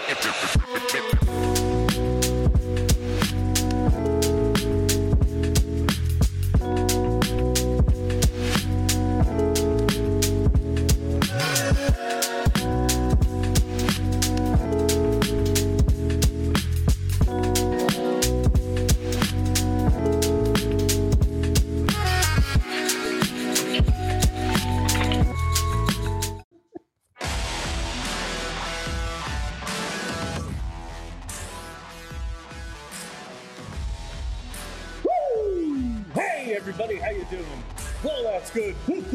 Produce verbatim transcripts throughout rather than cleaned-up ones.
Everybody, how you doing? Well, that's good.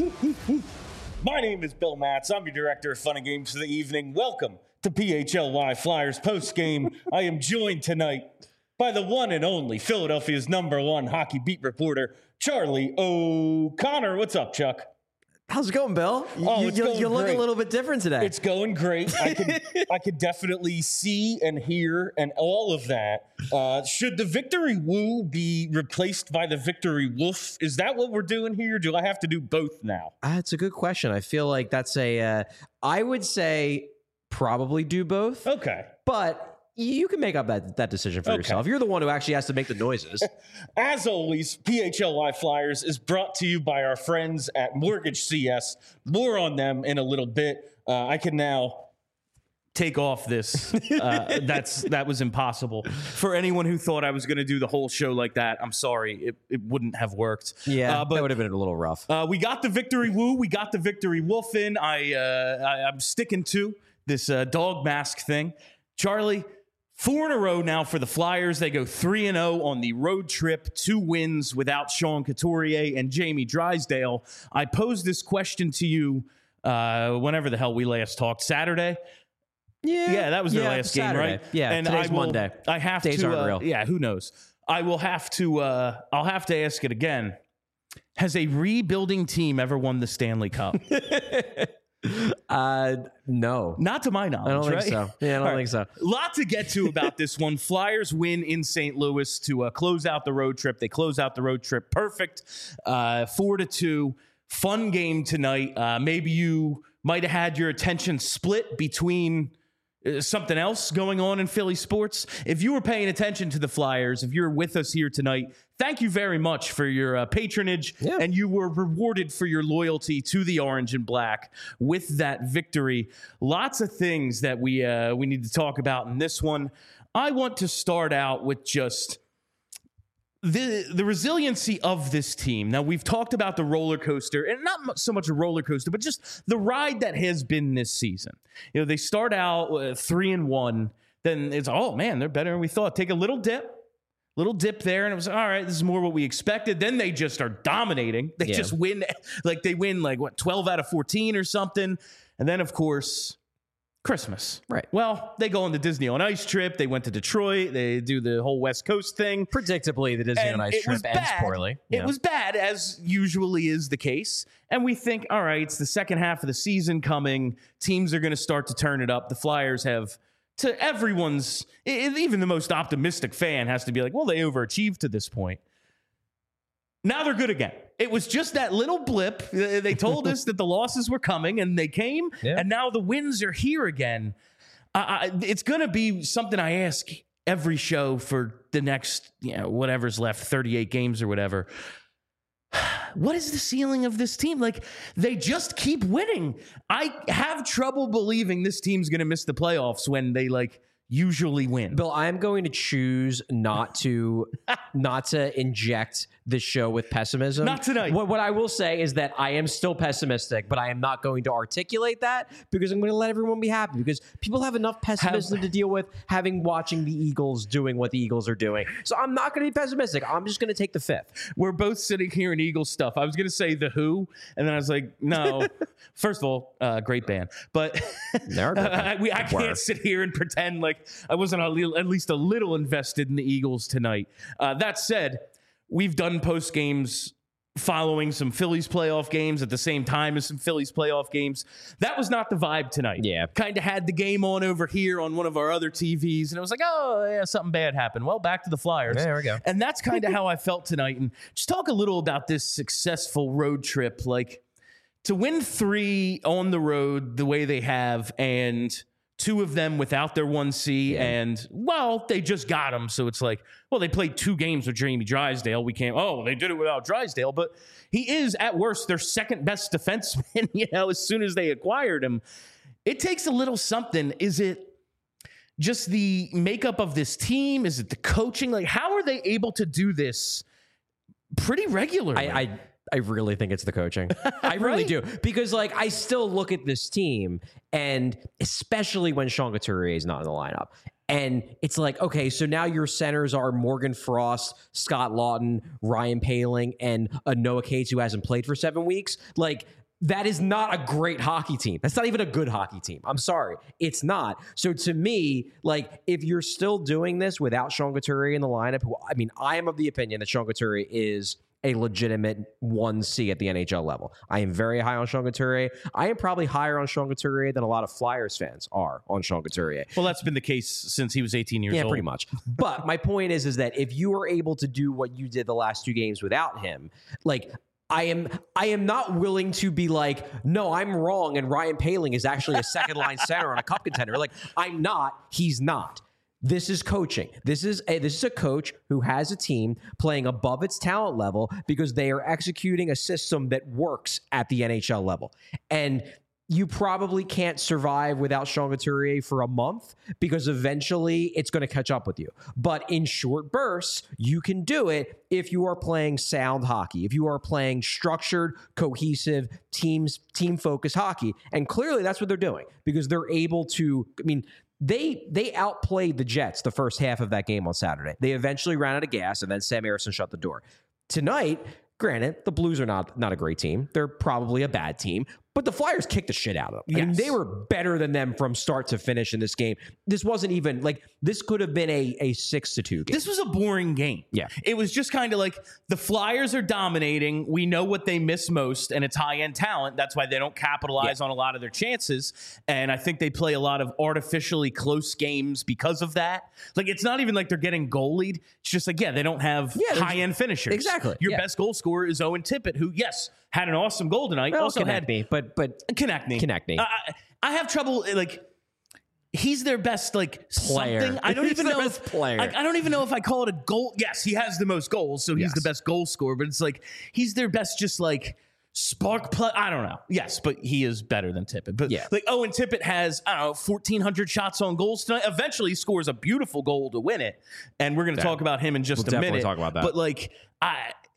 My name is Bill Matz. I'm your director of fun and games for the evening. Welcome to P H L Y Flyers post game. I am joined tonight by the one and only Philadelphia's number one hockey beat reporter, Charlie O'Connor. What's up, Chuck? How's it going, Bill? You, Oh, it's you, going you look great. a little bit different today. It's going great. I could I could definitely see and hear and all of that. Uh, should the Victory Woo be replaced by the Victory Woof? Is that what we're doing here? Do I have to do both now? Uh, it's a good question. I feel like that's a. Uh, I would say probably do both, Okay. but you can make up that, that decision for Okay. yourself. You're the one who actually has to make the noises. As always, P H L Y Flyers is brought to you by our friends at Mortgage C S. More on them in a little bit. Uh, I can now take off this. Uh, that's that was impossible. For anyone who thought I was going to do the whole show like that, I'm sorry. It, it wouldn't have worked. Yeah, uh, but that would have been a little rough. Uh, we got the Victory Woo. We got the Victory Wolf in. I, uh, I, I'm sticking to this uh, dog mask thing. Charlie, four in a row now for the Flyers. They go three and oh on the road trip, two wins without Sean Couturier and Jamie Drysdale. I posed this question to you uh, whenever the hell we last talked, Saturday. Yeah, Yeah, that was their yeah, last game, Saturday. right? Yeah, and today's I will, Monday. I have Days to. aren't Uh, real. yeah, who knows? I will have to. Uh, I'll have to ask it again. Has a rebuilding team ever won the Stanley Cup? Uh, no, Not to my knowledge. I don't think right? so. Yeah, I don't All think so. Lot to get to about this one. Flyers win in Saint Louis to uh, close out the road trip. They close out the road trip perfect, uh, four to two. Fun game tonight. Uh, maybe you might have had your attention split between uh, something else going on in Philly sports. If you were paying attention to the Flyers, if you're with us here tonight, thank you very much for your uh, patronage, Yeah. and you were rewarded for your loyalty to the Orange and Black with that victory. Lots of things that we uh, we need to talk about in this one. I want to start out with just the the resiliency of this team. Now, we've talked about the roller coaster, and not mu- so much a roller coaster, but just the ride that has been this season. You know, they start out uh, three and one, then it's, oh man, they're better than we thought. Take a little dip. Little dip there, and it was all right. This is more what we expected. Then they just are dominating. They Yeah. just win, like they win like what twelve out of fourteen or something. And then of course, Christmas. Right. Well, they go on the Disney on Ice trip. They went to Detroit. They do the whole West Coast thing. Predictably, the Disney And on Ice it trip was ends bad. poorly. you It know. was bad, as usually is the case. And we think, all right, it's the second half of the season coming. Teams are going to start to turn it up. The Flyers have, to everyone's, e- even the most optimistic fan has to be like, well, they overachieved to this point. Now they're good again. It was just that little blip. They they told us that the losses were coming, and they came, Yeah. and now the wins are here again. I, I, it's going to be something I ask every show for the next, you know, whatever's left, thirty-eight games or whatever. What is the ceiling of this team? Like, they just keep winning. I have trouble believing this team's going to miss the playoffs when they, like, usually win. Bill, I'm going to choose not to not to inject the show with pessimism. Not tonight. What, what I will say is that I am still pessimistic, but I am not going to articulate that because I'm going to let everyone be happy because people have enough pessimism to deal with having watching the Eagles doing what the Eagles are doing. So I'm not going to be pessimistic. I'm just going to take the fifth. We're both sitting here in Eagles stuff. I was going to say The Who, and then I was like, no. First of all, uh, great band. But They're a good band. I, we, I Were. can't sit here and pretend like I wasn't a little, at least a little invested in the Eagles tonight. Uh, that said, we've done post games following some Phillies playoff games at the same time as some Phillies playoff games. That was not the vibe tonight. Yeah. Kind of had the game on over here on one of our other T Vs, and it was like, oh, yeah, something bad happened. Well, back to the Flyers. There we go. And that's kind of how I felt tonight. And just talk a little about this successful road trip. Like, to win three on the road the way they have and two of them without their one C, Yeah. and, well, they just got him. So it's like, well, they played two games with Jamie Drysdale. We can't, oh, they did it without Drysdale. But he is, at worst, their second best defenseman, you know, as soon as they acquired him. It takes a little something. Is it just the makeup of this team? Is it the coaching? Like, how are they able to do this pretty regularly? I, I I really think it's the coaching. I really Right? do. Because, like, I still look at this team, and especially when Sean Couturier is not in the lineup, and it's like, okay, so now your centers are Morgan Frost, Scott Lawton, Ryan Poehling, and a Noah Cates who hasn't played for seven weeks. Like, that is not a great hockey team. That's not even a good hockey team. I'm sorry. It's not. So to me, like, if you're still doing this without Sean Couturier in the lineup, who, I mean, I am of the opinion that Sean Couturier is a legitimate one C at the N H L level. I am very high on Sean Couturier. I am probably higher on Sean Couturier than a lot of Flyers fans are on Sean Couturier. well, that's been the case since he was eighteen years Yeah, old. pretty much. But my point is, is that if you are able to do what you did the last two games without him, like, I am I am not willing to be like, no, I'm wrong, and Ryan Poehling is actually a second line center on a cup contender. Like, I'm not. He's not. This is coaching. This is a, this is a coach who has a team playing above its talent level because they are executing a system that works at the N H L level. And you probably can't survive without Sean Couturier for a month because eventually it's going to catch up with you. But in short bursts, you can do it if you are playing sound hockey, if you are playing structured, cohesive, teams, team-focused hockey. And clearly that's what they're doing because they're able to, I mean, They they outplayed the Jets the first half of that game on Saturday. They eventually ran out of gas, and then Sam Harrison shut the door. Tonight, granted, the Blues are not, not a great team. They're probably a bad team, but the Flyers kicked the shit out of them. I mean, Yes. they were better than them from start to finish in this game. This wasn't even, like, this could have been a, a six to two game. This was a boring game. Yeah. It was just kind of like the Flyers are dominating. We know what they miss most, and it's high-end talent. That's why they don't capitalize on a lot of their chances. And I think they play a lot of artificially close games because of that. Like, it's not even like they're getting goalied. It's just like, yeah, they don't have Yeah, they're- high-end finishers. Exactly. Your Yeah. best goal scorer is Owen Tippett, who, yes, had an awesome goal tonight. Well, also connect had me, but but Konechny. Konechny. I, I have trouble, like, he's their best, like, Player. something. I don't He's even their know. best if, player. I, I don't even know if I call it a goal. Yes, he has the most goals, so he's Yes. the best goal scorer, but it's like, he's their best, just like, spark play. I don't know. Yes, but he is better than Tippett. But, Yeah. like, Owen Tippett has, I don't know, fourteen hundred shots on goals tonight. Eventually, he scores a beautiful goal to win it. And we're going to Yeah. talk about him in just We'll a definitely minute. talk about that. But, like, I.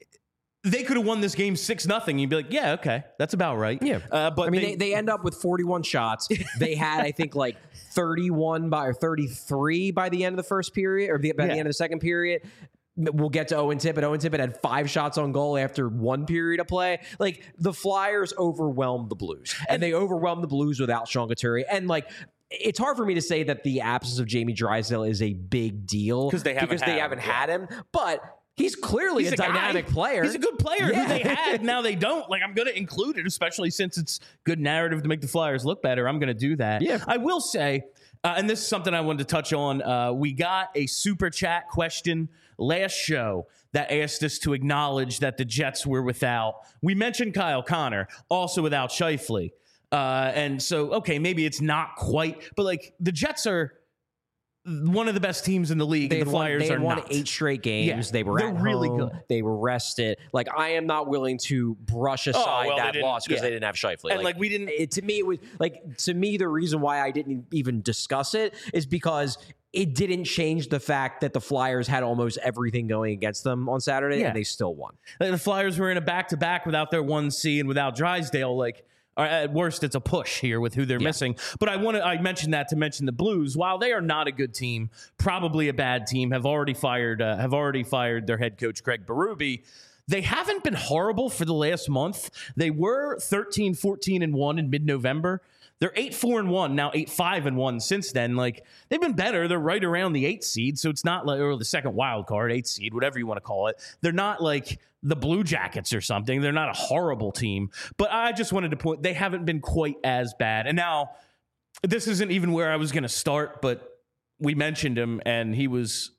They could have won this game six nothing. You'd be like, yeah, okay, that's about right. Yeah. uh, but I mean, they, they, they end up with forty-one shots. They had, I think, like thirty-one by or thirty-three by the end of the first period, or the, by Yeah. the end of the second period. We'll get to Owen Tippett. Owen Tippett had five shots on goal after one period of play. Like, the Flyers overwhelmed the Blues, and they overwhelmed the Blues without Sean Couturier. And, like, it's hard for me to say that the absence of Jamie Drysdale is a big deal 'Cause they haven't because had they him, haven't yeah. had him, but. He's clearly He's a, a guy. dynamic player. He's a good player Yeah. who they had. Now they don't. Like, I'm going to include it, especially since it's good narrative to make the Flyers look better. I'm going to do that. Yeah. I will say, uh, and this is something I wanted to touch on. Uh, we got a super chat question last show that asked us to acknowledge that the Jets were without. We mentioned Kyle Connor, also without Scheifele. Uh, and so, okay, maybe it's not quite, but like the Jets are one of the best teams in the league. They and had the won, Flyers they had are won not. eight straight games. Yeah, they were they're at really home. good. They were rested. Like, I am not willing to brush aside well, they that didn't- loss because yeah. they didn't have Scheifele. And, like, we didn't- It, to me, it was like to me the reason why I didn't even discuss it is because it didn't change the fact that the Flyers had almost everything going against them on Saturday, Yeah. and they still won. Like, the Flyers were in a back-to-back without their one C and without Drysdale. Like, or at worst, it's a push here with who they're Yeah. missing. But I want to. I mentioned that to mention the Blues. While they are not a good team, probably a bad team, have already fired. Uh, have already fired their head coach Craig Berube. They haven't been horrible for the last month. They were thirteen, fourteen, and one in mid-November. They're eight, four, and one now, eight, five, and one since then. Like, they've been better. They're right around the eight seed, so it's not like or the second wild card, eight seed, whatever you want to call it. They're not like the Blue Jackets or something. They're not a horrible team. But I just wanted to point they haven't been quite as bad. And now this isn't even where I was going to start, but we mentioned him, and he was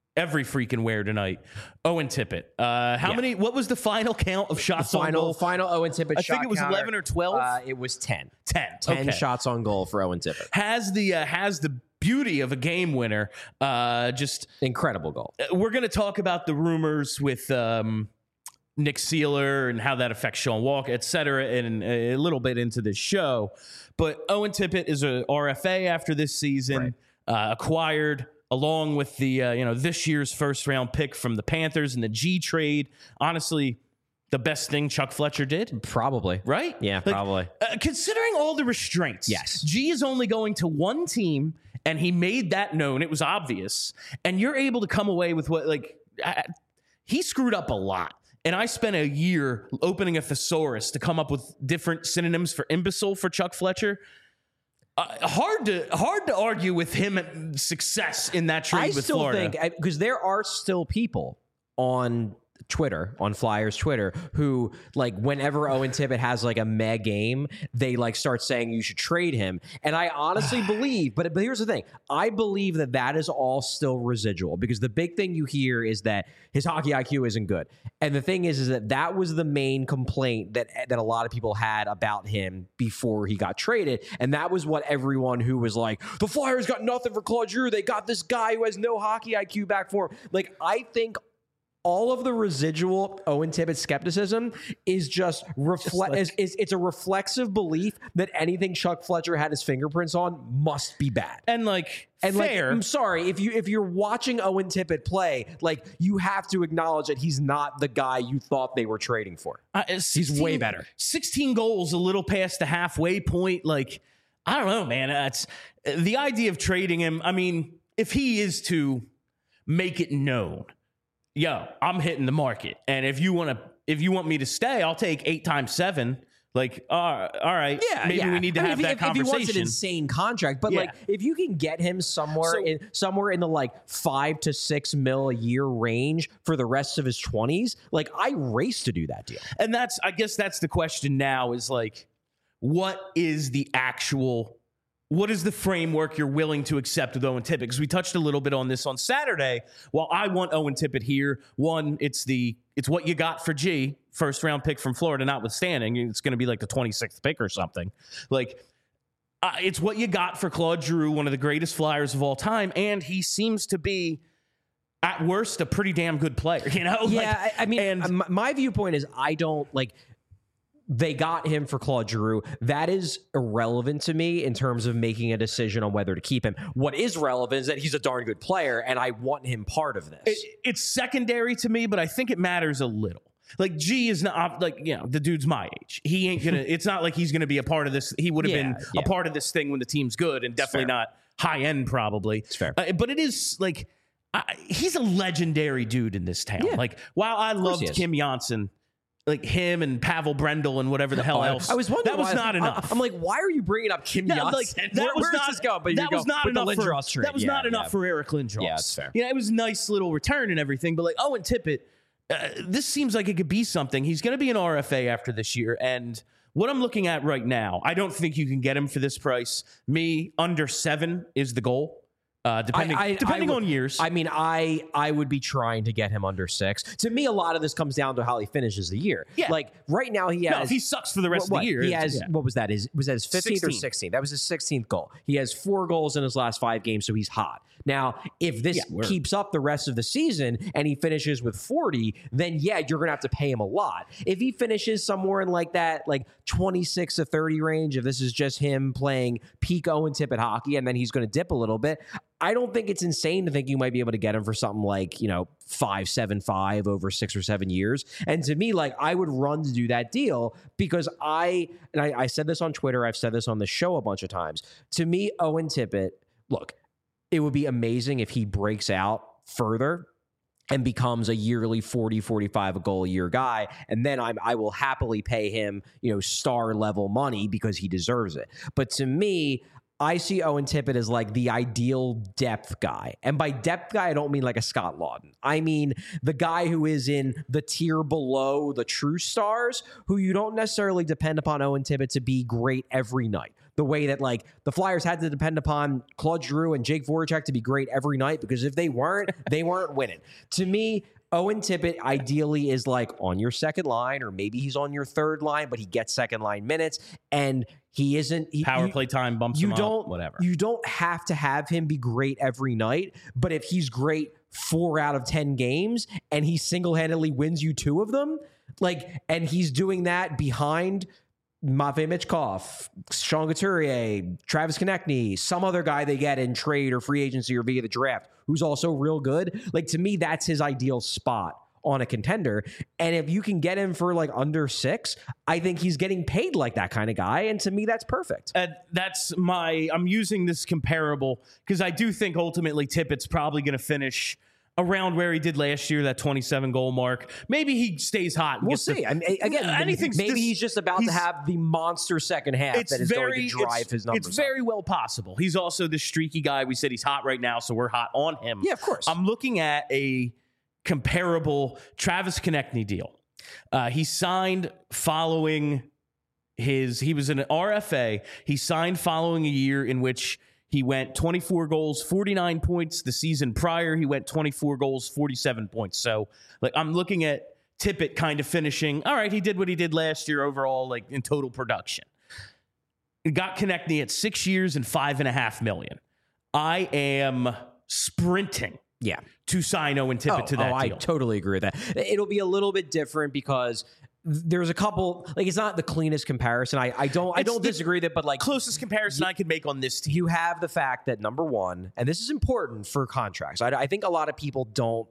every freaking where tonight. Owen Tippett. Uh, how Yeah. many? What was the final count of shots The on final goal? final Owen Tippett I shot think it was counter, eleven or twelve. Uh, it was ten. ten. ten Okay. shots on goal for Owen Tippett. Has the uh, has the beauty of a game winner. Uh, just Incredible goal. we're going to talk about the rumors with um, Nick Seeler and how that affects Sean Walker, et cetera, and a little bit into this show. But Owen Tippett is a R F A after this season, right. uh, acquired along with the uh, you know this year's first round pick from the Panthers and the G trade. Honestly, the best thing Chuck Fletcher did. Probably. Right? Yeah, Like, probably. Uh, considering all the restraints, Yes. G is only going to one team, and he made that known. It was obvious. And you're able to come away with what, like, uh, he screwed up a lot. And I spent a year opening a thesaurus to come up with different synonyms for imbecile for Chuck Fletcher. Uh, hard to hard to argue with him at success in that trade I with still Florida. think, because there are still people on Twitter, on Flyers Twitter, who like whenever Owen Tippett has like a meh game, they like start saying you should trade him. And I honestly believe, but, but here's the thing. I believe that that is all still residual, because the big thing you hear is that his hockey I Q isn't good. And the thing is, is that that was the main complaint that, that a lot of people had about him before he got traded. And that was what everyone who was like, the Flyers got nothing for Claude Giroux. They got this guy who has no hockey I Q back for him. Like, I think all of the residual Owen Tippett skepticism is just reflect. like- is, is it's a reflexive belief that anything Chuck Fletcher had his fingerprints on must be bad. and like And fair. like, I'm sorry if you if you're watching Owen Tippett play, like you have to acknowledge that he's not the guy you thought they were trading for. Uh, He's way better. sixteen goals, a little past the halfway point. Like, I don't know, man. That's the idea of trading him. I mean, if he is to make it known, yo, I'm hitting the market, and if you want to, if you want me to stay, I'll take eight times seven. Like, uh, all right, Yeah, maybe yeah. we need to I mean, have if, that if, if he wants an conversation. insane contract, but Yeah. like if you can get him somewhere So- in somewhere in the like five to six mil a year range for the rest of his twenties, like I race to do that deal. And that's, I guess that's the question now is like, what is the actual, what is the framework you're willing to accept with Owen Tippett? Because we touched a little bit on this on Saturday. While I want Owen Tippett here, one, it's the, it's what you got for G, first round pick from Florida, notwithstanding. It's going to be like the twenty-sixth pick or something. Like, uh, it's what you got for Claude Giroux, one of the greatest Flyers of all time. And he seems to be, at worst, a pretty damn good player, you know? Yeah, Like, I, I mean, and my, my viewpoint is I don't like. They got him for Claude Giroux. That is irrelevant to me in terms of making a decision on whether to keep him. What is relevant is that he's a darn good player, and I want him part of this. It, it's secondary to me, but I think it matters a little. Like G is not like, you know, the dude's my age. He ain't gonna. It's not like he's gonna be a part of this. He would have Yeah, been yeah. a part of this thing when the team's good, and definitely fair. not high end. Probably, It's fair. Uh, but it is like I, he's a legendary dude in this town. Yeah. Like while I course loved he is. Kim Janssen, like him and Pavel Brendel and whatever the hell else, I was wondering that was why- not I- enough. I'm like, why are you bringing up Kim Yeah, Janssen? like, that Where- was where's not, this going? But that you was go, not with enough the for Lindros trade. that was Yeah, not enough yeah. for Eric Lindros. Yeah, it's fair. Yeah, it was a nice little return and everything, but like Owen Tippett, uh, this seems like it could be something. He's going to be an R F A after this year, and what I'm looking at right now, I don't think you can get him for this price. Me, under seven is the goal. Uh, depending I- I- depending I would- on years. I mean, I I would be trying to get him under six. To me, a lot of this comes down to how he finishes the year. Yeah. Like right now, he has. no, if he sucks for the rest what, of the year, he it's- has. yeah. What was that? His was that his fifteenth or sixteenth. sixteenth? That was his sixteenth goal. He has four goals in his last five games, so he's hot. Now, if this Yeah, word. keeps up the rest of the season and he finishes with forty, then yeah, you're gonna have to pay him a lot. If he finishes somewhere in like that, like twenty-six to thirty range, if this is just him playing peak Owen Tippett hockey, and then he's gonna dip a little bit, I don't think it's insane to think you might be able to get him for something like, you know, five, seven, five over six or seven years. And to me, like I would run to do that deal because I, and I, I said this on Twitter, I've said this on the show a bunch of times. To me, Owen Tippett, look, it would be amazing if he breaks out further and becomes a yearly forty, forty-five a goal a year guy. And then I'm, I will happily pay him, you know, star level money because he deserves it. But to me, I see Owen Tippett as like the ideal depth guy. And by depth guy, I don't mean like a Scott Lawton. I mean the guy who is in the tier below the true stars, who you don't necessarily depend upon Owen Tippett to be great every night. the way that like the Flyers had to depend upon Claude Giroux and Jake Voracek to be great every night, because if they weren't, they weren't winning. To me, Owen Tippett ideally is like on your second line, or maybe he's on your third line, but he gets second line minutes, and he isn't he, Power you, play time bumps you him don't, up, whatever. You don't have to have him be great every night, but if he's great four out of ten games and he single-handedly wins you two of them, like, and he's doing that behind Matvei Michkov, Sean Couturier, Travis Konechny, some other guy they get in trade or free agency or via the draft who's also real good. Like, to me, that's his ideal spot on a contender. And if you can get him for like under six, I think he's getting paid like that kind of guy. And to me, that's perfect. Uh, that's my, I'm using this comparable because I do think ultimately Tippett's probably going to finish around where he did last year, that twenty-seven goal mark. Maybe he stays hot. And We'll gets see. The, I mean, again, anything's maybe just, he's just about he's, to have the monster second half it's that is very, going to drive it's, his numbers. It's very up. well possible. He's also the streaky guy. We said he's hot right now, so we're hot on him. Yeah, of course. I'm looking at a comparable Travis Konechny deal. Uh, he signed following his, he was an R F A. He signed following a year in which he went twenty-four goals, forty-nine points. The season prior, he went twenty-four goals, forty-seven points. So, like, I'm looking at Tippett kind of finishing. All right, he did what he did last year overall, like in total production. He got Konechny at six years and five and a half million. I am sprinting. Yeah. To sign Owen Tippett oh, to that oh, deal. I totally agree with that. It'll be a little bit different because there's a couple, like, it's not the cleanest comparison. I, I don't I It's don't the disagree with it, but like closest comparison I could make on this team. You have the fact that, number one, and this is important for contracts. I, I think a lot of people don't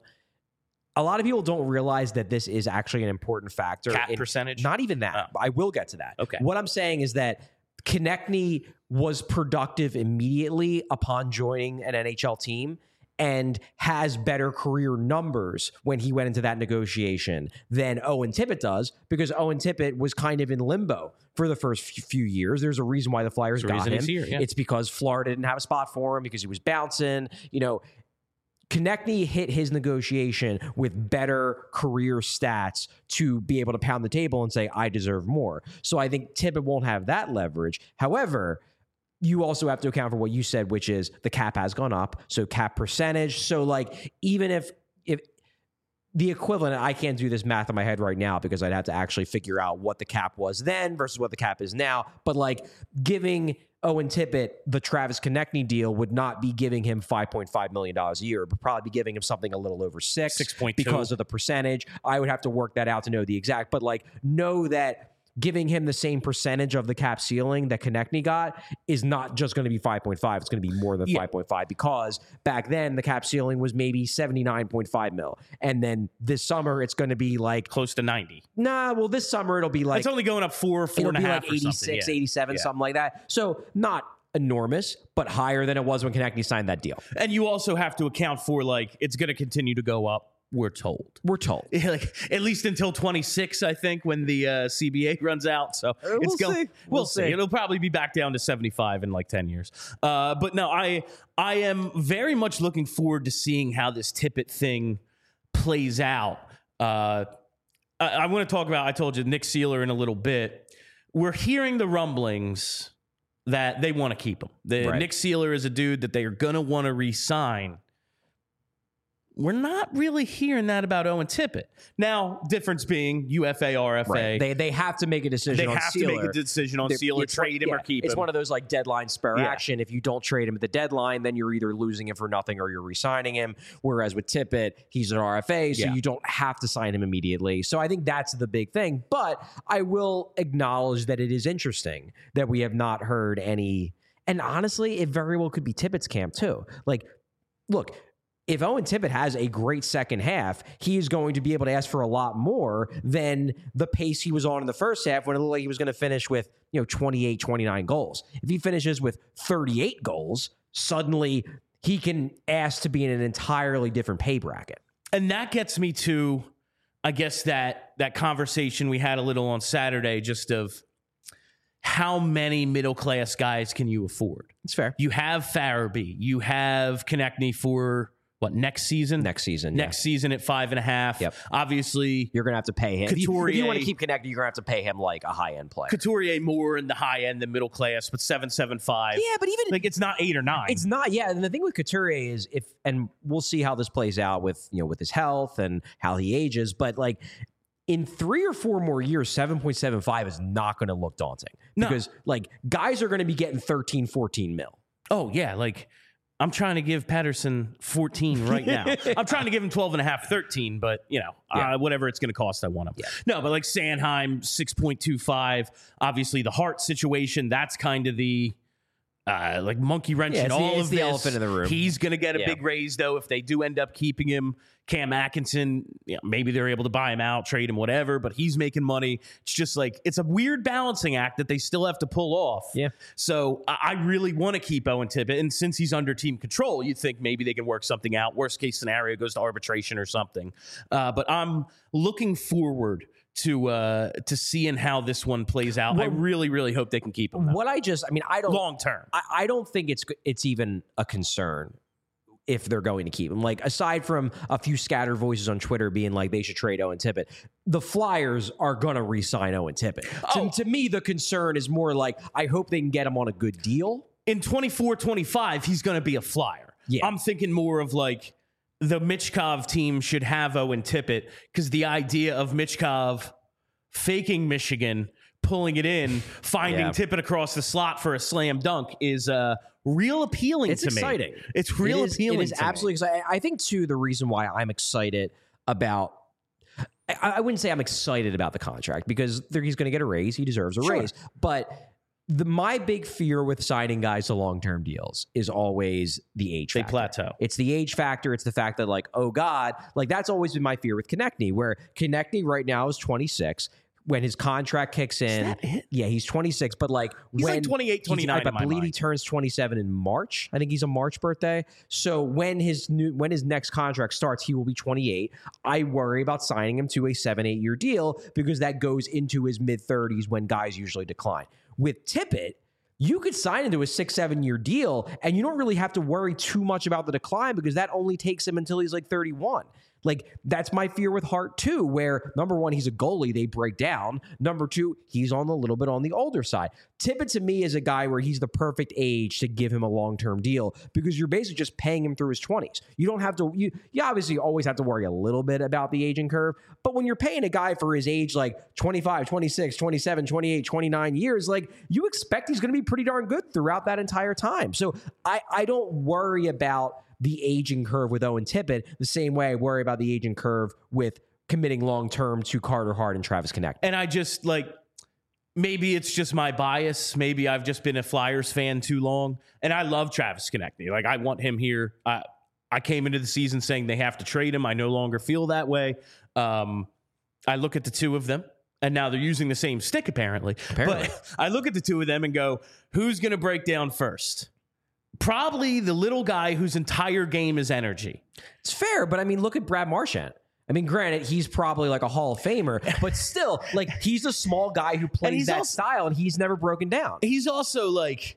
a lot of people don't realize that this is actually an important factor. Cap in, percentage? Not even that. Oh. I will get to that. Okay. What I'm saying is that Konechny was productive immediately upon joining an N H L team and has better career numbers when he went into that negotiation than Owen Tippett does, because Owen Tippett was kind of in limbo for the first few years. There's a reason why the Flyers There's got him. him. Here, yeah. It's because Florida didn't have a spot for him because he was bouncing. You know, Konechny hit his negotiation with better career stats to be able to pound the table and say, I deserve more. So I think Tippett won't have that leverage. However, you also have to account for what you said, which is the cap has gone up. So cap percentage. So like, even if, if the equivalent, I can't do this math in my head right now because I'd have to actually figure out what the cap was then versus what the cap is now. But like, giving Owen Tippett the Travis Konechny deal would not be giving him five point five million dollars a year, but probably be giving him something a little over six, six point two because of the percentage. I would have to work that out to know the exact, but like, know that giving him the same percentage of the cap ceiling that Konechny got is not just going to be five point five. It's going to be more than yeah. five point five, because back then the cap ceiling was maybe seventy-nine point five mil. And then this summer it's going to be like close to ninety. Nah, well, this summer it'll be like, it's only going up four, four it'll and a be half like or eighty-six, something. Yeah. eighty-seven, Yeah. something like that. So not enormous, but higher than it was when Konechny signed that deal. And you also have to account for, like, it's going to continue to go up. We're told. We're told. Like, at least until twenty-six, I think, when the uh, C B A runs out. So we'll it's going. see. We'll, We'll see. see. It'll probably be back down to seventy-five in like ten years. Uh, but no, I I am very much looking forward to seeing how this Tippett thing plays out. Uh, I, I want to talk about. I told you Nick Seeler in a little bit. We're hearing the rumblings that they want to keep him. The, Right. Nick Seeler is a dude that they are going to want to re-sign. We're not really hearing that about Owen Tippett. Now, difference being U F A, R F A. Right. They they have to make a decision They on have Sealer. to make a decision on They're- Sealer, it's trade one- him yeah, or keep it's him. one of those like deadline spare Yeah. action. If you don't trade him at the deadline, then you're either losing him for nothing or you're re-signing him. Whereas with Tippett, he's an R F A, so Yeah. you don't have to sign him immediately. So I think that's the big thing. But I will acknowledge that it is interesting that we have not heard any. And honestly, it very well could be Tippett's camp too. Like, look, if Owen Tippett has a great second half, he is going to be able to ask for a lot more than the pace he was on in the first half when it looked like he was going to finish with, you know, twenty-eight, twenty-nine goals. If he finishes with thirty-eight goals, suddenly he can ask to be in an entirely different pay bracket. And that gets me to, I guess, that that conversation we had a little on Saturday, just of how many middle-class guys can you afford? It's fair. You have Farabee. You have Konechny for what, next season? Next season. Next yeah. season at five and a half. Yep. Obviously, You're going to have to pay him. If you, Couturier- if you want to keep connected, you're going to have to pay him like a high-end player. Couturier more in the high end than middle class, but seven seven five. Yeah, but even like it's not eight or nine. It's not, yeah. And the thing with Couturier is if, and we'll see how this plays out with, you know, with his health and how he ages, but like in three or four more years, seven point seven five is not going to look daunting No. because like guys are going to be getting thirteen, fourteen mil. Oh, yeah. Like, I'm trying to give Patterson fourteen right now. I'm trying to give him twelve and a half, thirteen, but, you know, Yeah. uh, whatever it's going to cost, I want him. Yeah. No, but like Sanheim, six point two five. Obviously, the Hart situation, that's kind of the uh, like monkey wrench Yeah, in it's the- all it's of the this. elephant in the room. He's going to get a Yeah. big raise, though, if they do end up keeping him. Cam Atkinson, you know, maybe they're able to buy him out, trade him, whatever, but he's making money. It's just like, it's a weird balancing act that they still have to pull off. Yeah. So I I really want to keep Owen Tippett. And since he's under team control, you think maybe they can work something out. Worst case scenario goes to arbitration or something. Uh, but I'm looking forward to uh, to seeing how this one plays out. I Well, really, really hope they can keep him What I just, I mean, I don't, long term. I, I don't think it's it's even a concern if they're going to keep him. Like, aside from a few scattered voices on Twitter being like they should trade Owen Tippett, the Flyers are going to re-sign Owen Tippett. Oh. To, to me, the concern is more like, I hope they can get him on a good deal. In twenty-four twenty-five, he's going to be a Flyer. Yeah. I'm thinking more of like the Michkov team should have Owen Tippett because the idea of Michkov faking Michigan, pulling it in, finding Yeah. Tippett across the slot for a slam dunk is uh, real appealing It's to exciting. me. It's real it is, appealing It is to me. absolutely exciting. I think, too, the reason why I'm excited about I, I wouldn't say I'm excited about the contract because there, he's going to get a raise. He deserves a Sure. raise. But the, my big fear with signing guys to long-term deals is always the age They factor. plateau. It's the age factor. It's the fact that, like, oh, God, like that's always been my fear with Konechny, where Konechny right now is twenty-six. When his contract kicks in, that it? yeah, he's twenty-six. But like, He's when like twenty-eight, twenty-nine he's- I, in my believe he mind. turns twenty-seven in March. I think he's a March birthday. So when his new when his next contract starts, he will be twenty-eight. I worry about signing him to a seven, eight year deal because that goes into his mid thirties when guys usually decline. With Tippett, you could sign into a six, seven year deal, and you don't really have to worry too much about the decline because that only takes him until he's like thirty-one. Like, that's my fear with Hart, too, where number one, he's a goalie, they break down. Number two, he's on a little bit on the older side. Tippett, to me, is a guy where he's the perfect age to give him a long-term deal because you're basically just paying him through his twenties. You don't have to, you, you obviously always have to worry a little bit about the aging curve, but when you're paying a guy for his age, like twenty-five, twenty-six, twenty-seven, twenty-eight, twenty-nine years, like, you expect he's going to be pretty darn good throughout that entire time. So I, I don't worry about the aging curve with Owen Tippett the same way I worry about the aging curve with committing long-term to Carter Hart and Travis Konechny. And I just like, maybe it's just my bias. Maybe I've just been a Flyers fan too long. And I love Travis Konechny. Like, I want him here. I, I came into the season saying they have to trade him. I no longer feel that way. Um, I look at the two of them, and now they're using the same stick, apparently. Apparently. But I look at the two of them and go, who's going to break down first? Probably the little guy whose entire game is energy. It's fair, but I mean, look at Brad Marchand. I mean, granted, he's probably like a Hall of Famer, but still, like, he's a small guy who plays he's that also- style, and he's never broken down. He's also like,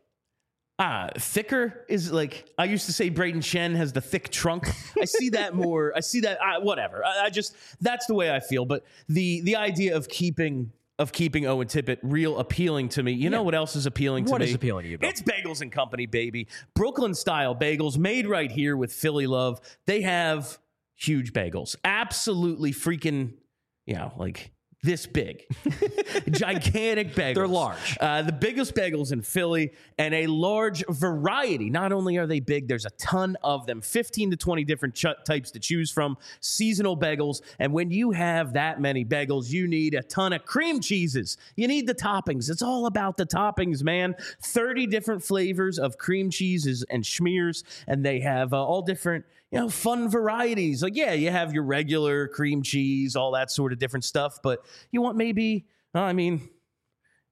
uh, thicker is like, I used to say Braden Shen has the thick trunk. I see that more. I see that, uh, whatever. I, I just, that's the way I feel. But the the idea of keeping of keeping Owen Tippett real appealing to me. You know what else is appealing to What me? is appealing to you, Bill? It's Bagels and Company, baby. Brooklyn style bagels made right here with Philly love. They have huge bagels. Absolutely freaking, you know, like this big. Gigantic bagels. They're large. Uh, the biggest bagels in Philly and a large variety. Not only are they big, there's a ton of them, fifteen to twenty different ch- types to choose from, seasonal bagels. And when you have that many bagels, you need a ton of cream cheeses. You need the toppings. It's all about the toppings, man. thirty different flavors of cream cheeses and schmears, and they have uh, all different, you know, fun varieties. Like, yeah, you have your regular cream cheese, all that sort of different stuff, but you want maybe, I mean,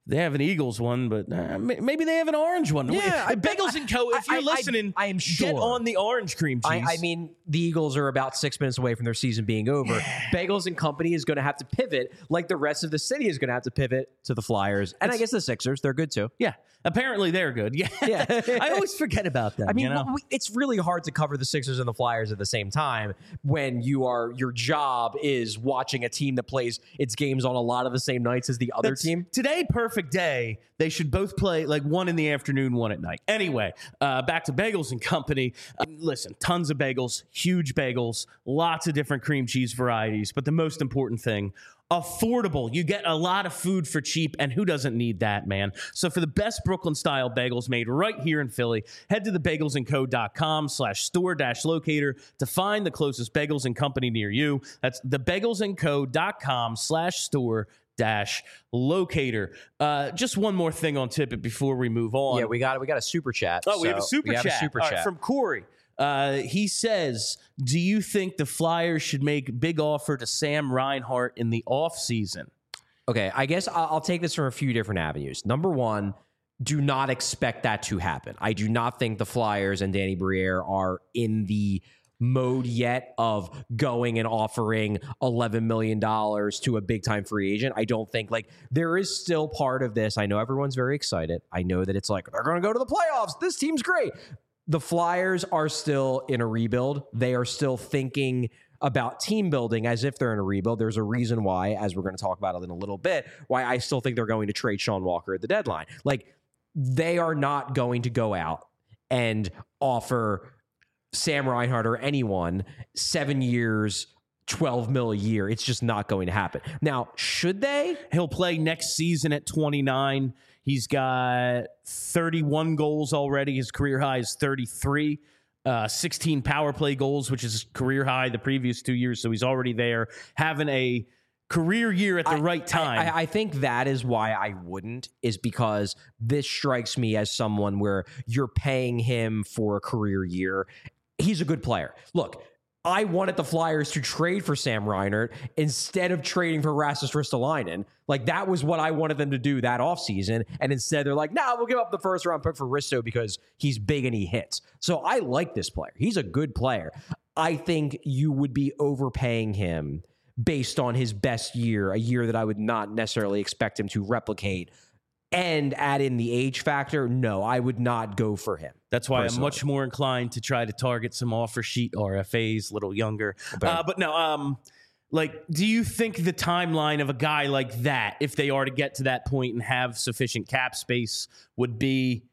They have an Eagles one, but uh, maybe they have an orange one. Yeah, I, Bagels and Co. If I, you're I, listening, I, I am sure. get on the orange cream cheese. I, I mean, the Eagles are about six minutes away from their season being over. Yeah. Bagels and Company is going to have to pivot, like the rest of the city is going to have to pivot to the Flyers, and it's, I guess the Sixers. They're good too. Yeah, apparently they're good. Yeah, yeah. I always forget about that. I mean, you know? we, it's really hard to cover the Sixers and the Flyers at the same time when you are your job is watching a team that plays its games on a lot of the same nights as the other That's, team. Today, perfect day. They should both play like one in the afternoon, one at night. Anyway, uh, back to Bagels and Company. Uh, listen, tons of bagels, huge bagels, lots of different cream cheese varieties. But the most important thing, affordable. You get a lot of food for cheap, and who doesn't need that, man? So for the best Brooklyn-style bagels made right here in Philly, head to the bagels and co dot com slash store dash locator to find the closest Bagels and Company near you. That's the bagels and co dot com slash store dash locator. Uh, just one more thing on Tippett before we move on. Yeah, we got we got a super chat. Oh, we have a super we chat. Have a super All chat right, from Corey. Uh, he says, do you think the Flyers should make big offer to Sam Reinhart in the offseason? Okay, I guess I'll, I'll take this from a few different avenues. Number one, do not expect that to happen. I do not think the Flyers and Danny Briere are in the mode yet of going and offering eleven million dollars to a big time free agent. I don't think like there is still part of this. I know everyone's very excited. I know that it's like, they're going to go to the playoffs. This team's great. The Flyers are still in a rebuild. They are still thinking about team building as if they're in a rebuild. There's a reason why, as we're going to talk about it in a little bit, why I still think they're going to trade Sean Walker at the deadline. Like, they are not going to go out and offer Sam Reinhart or anyone seven years, twelve mil a year. It's just not going to happen. Now, should they? He'll play next season at twenty-nine. He's got thirty-one goals already. His career high is thirty-three. Uh, sixteen power play goals, which is career high the previous two years. So he's already there, having a career year at the I, right time. I, I think that is why I wouldn't, is because this strikes me as someone where you're paying him for a career year. He's a good player. Look, I wanted the Flyers to trade for Sam Reinhart instead of trading for Rasmus Ristolainen. Like, that was what I wanted them to do that offseason. And instead, they're like, nah, we'll give up the first round pick for Risto because he's big and he hits. So I like this player. He's a good player. I think you would be overpaying him based on his best year, a year that I would not necessarily expect him to replicate, and add in the age factor. No, I would not go for him. That's why personally. I'm much more inclined to try to target some offer sheet R F As, a little younger. Uh, but no, um, like, do you think the timeline of a guy like that, if they are to get to that point and have sufficient cap space, would be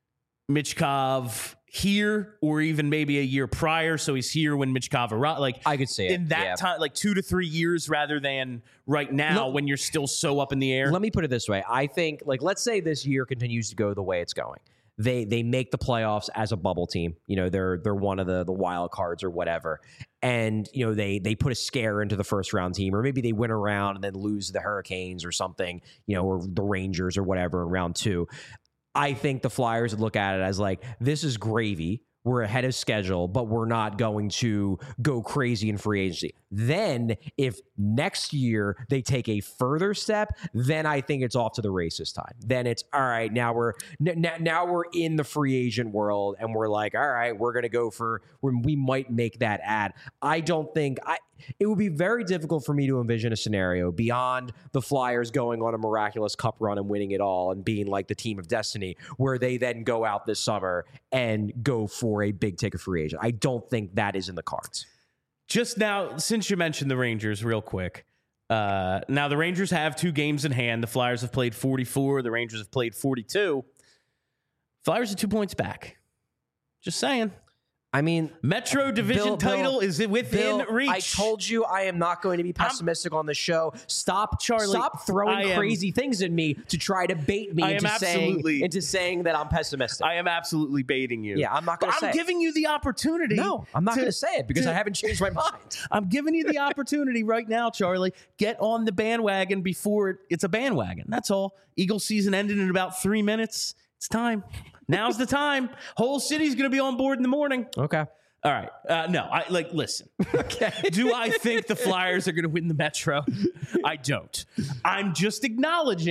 Michkov here, or even maybe a year prior, so he's here when Michkov arrives? Like, I could see it in that yeah. time, like two to three years, rather than right now Look, when you're still so up in the air. Let me put it this way: I think, like, let's say this year continues to go the way it's going. They they make the playoffs as a bubble team. You know, they're they're one of the the wild cards or whatever, and you know they they put a scare into the first round team, or maybe they win a round and then lose to the Hurricanes or something, you know, or the Rangers or whatever in round two. I think the Flyers would look at it as like, this is gravy. We're ahead of schedule, but we're not going to go crazy in free agency. Then if next year they take a further step, then I think it's off to the races time. Then it's all right. Now we're n- now we're in the free agent world, and we're like, all right, we're going to go for, we might make that ad. I don't think I, it would be very difficult for me to envision a scenario beyond the Flyers going on a miraculous cup run and winning it all and being like the team of destiny, where they then go out this summer and go for a big ticket free agent. I don't think that is in the cards. Just now, since you mentioned the Rangers real quick, uh, now the Rangers have two games in hand. The Flyers have played forty-four. The Rangers have played forty-two. Flyers are two points back. Just saying. I mean, Metro Division Bill, title Bill, is within Bill, reach. I told you I am not going to be pessimistic I'm, on the show. Stop, Charlie. Stop throwing am, crazy things at me to try to bait me into saying, into saying that I'm pessimistic. I am absolutely baiting you. Yeah, I'm not going to say I'm it. giving you the opportunity. No, I'm not going to say it because to, I haven't changed my mind. I'm giving you the opportunity right now, Charlie. Get on the bandwagon before it's a bandwagon. That's all. Eagles season ended in about three minutes. It's time. Now's the time. Whole city's going to be on board in the morning. Okay. All right. Uh, no, I like, listen. Okay. Do I think the Flyers are going to win the Metro? I don't. I'm just acknowledging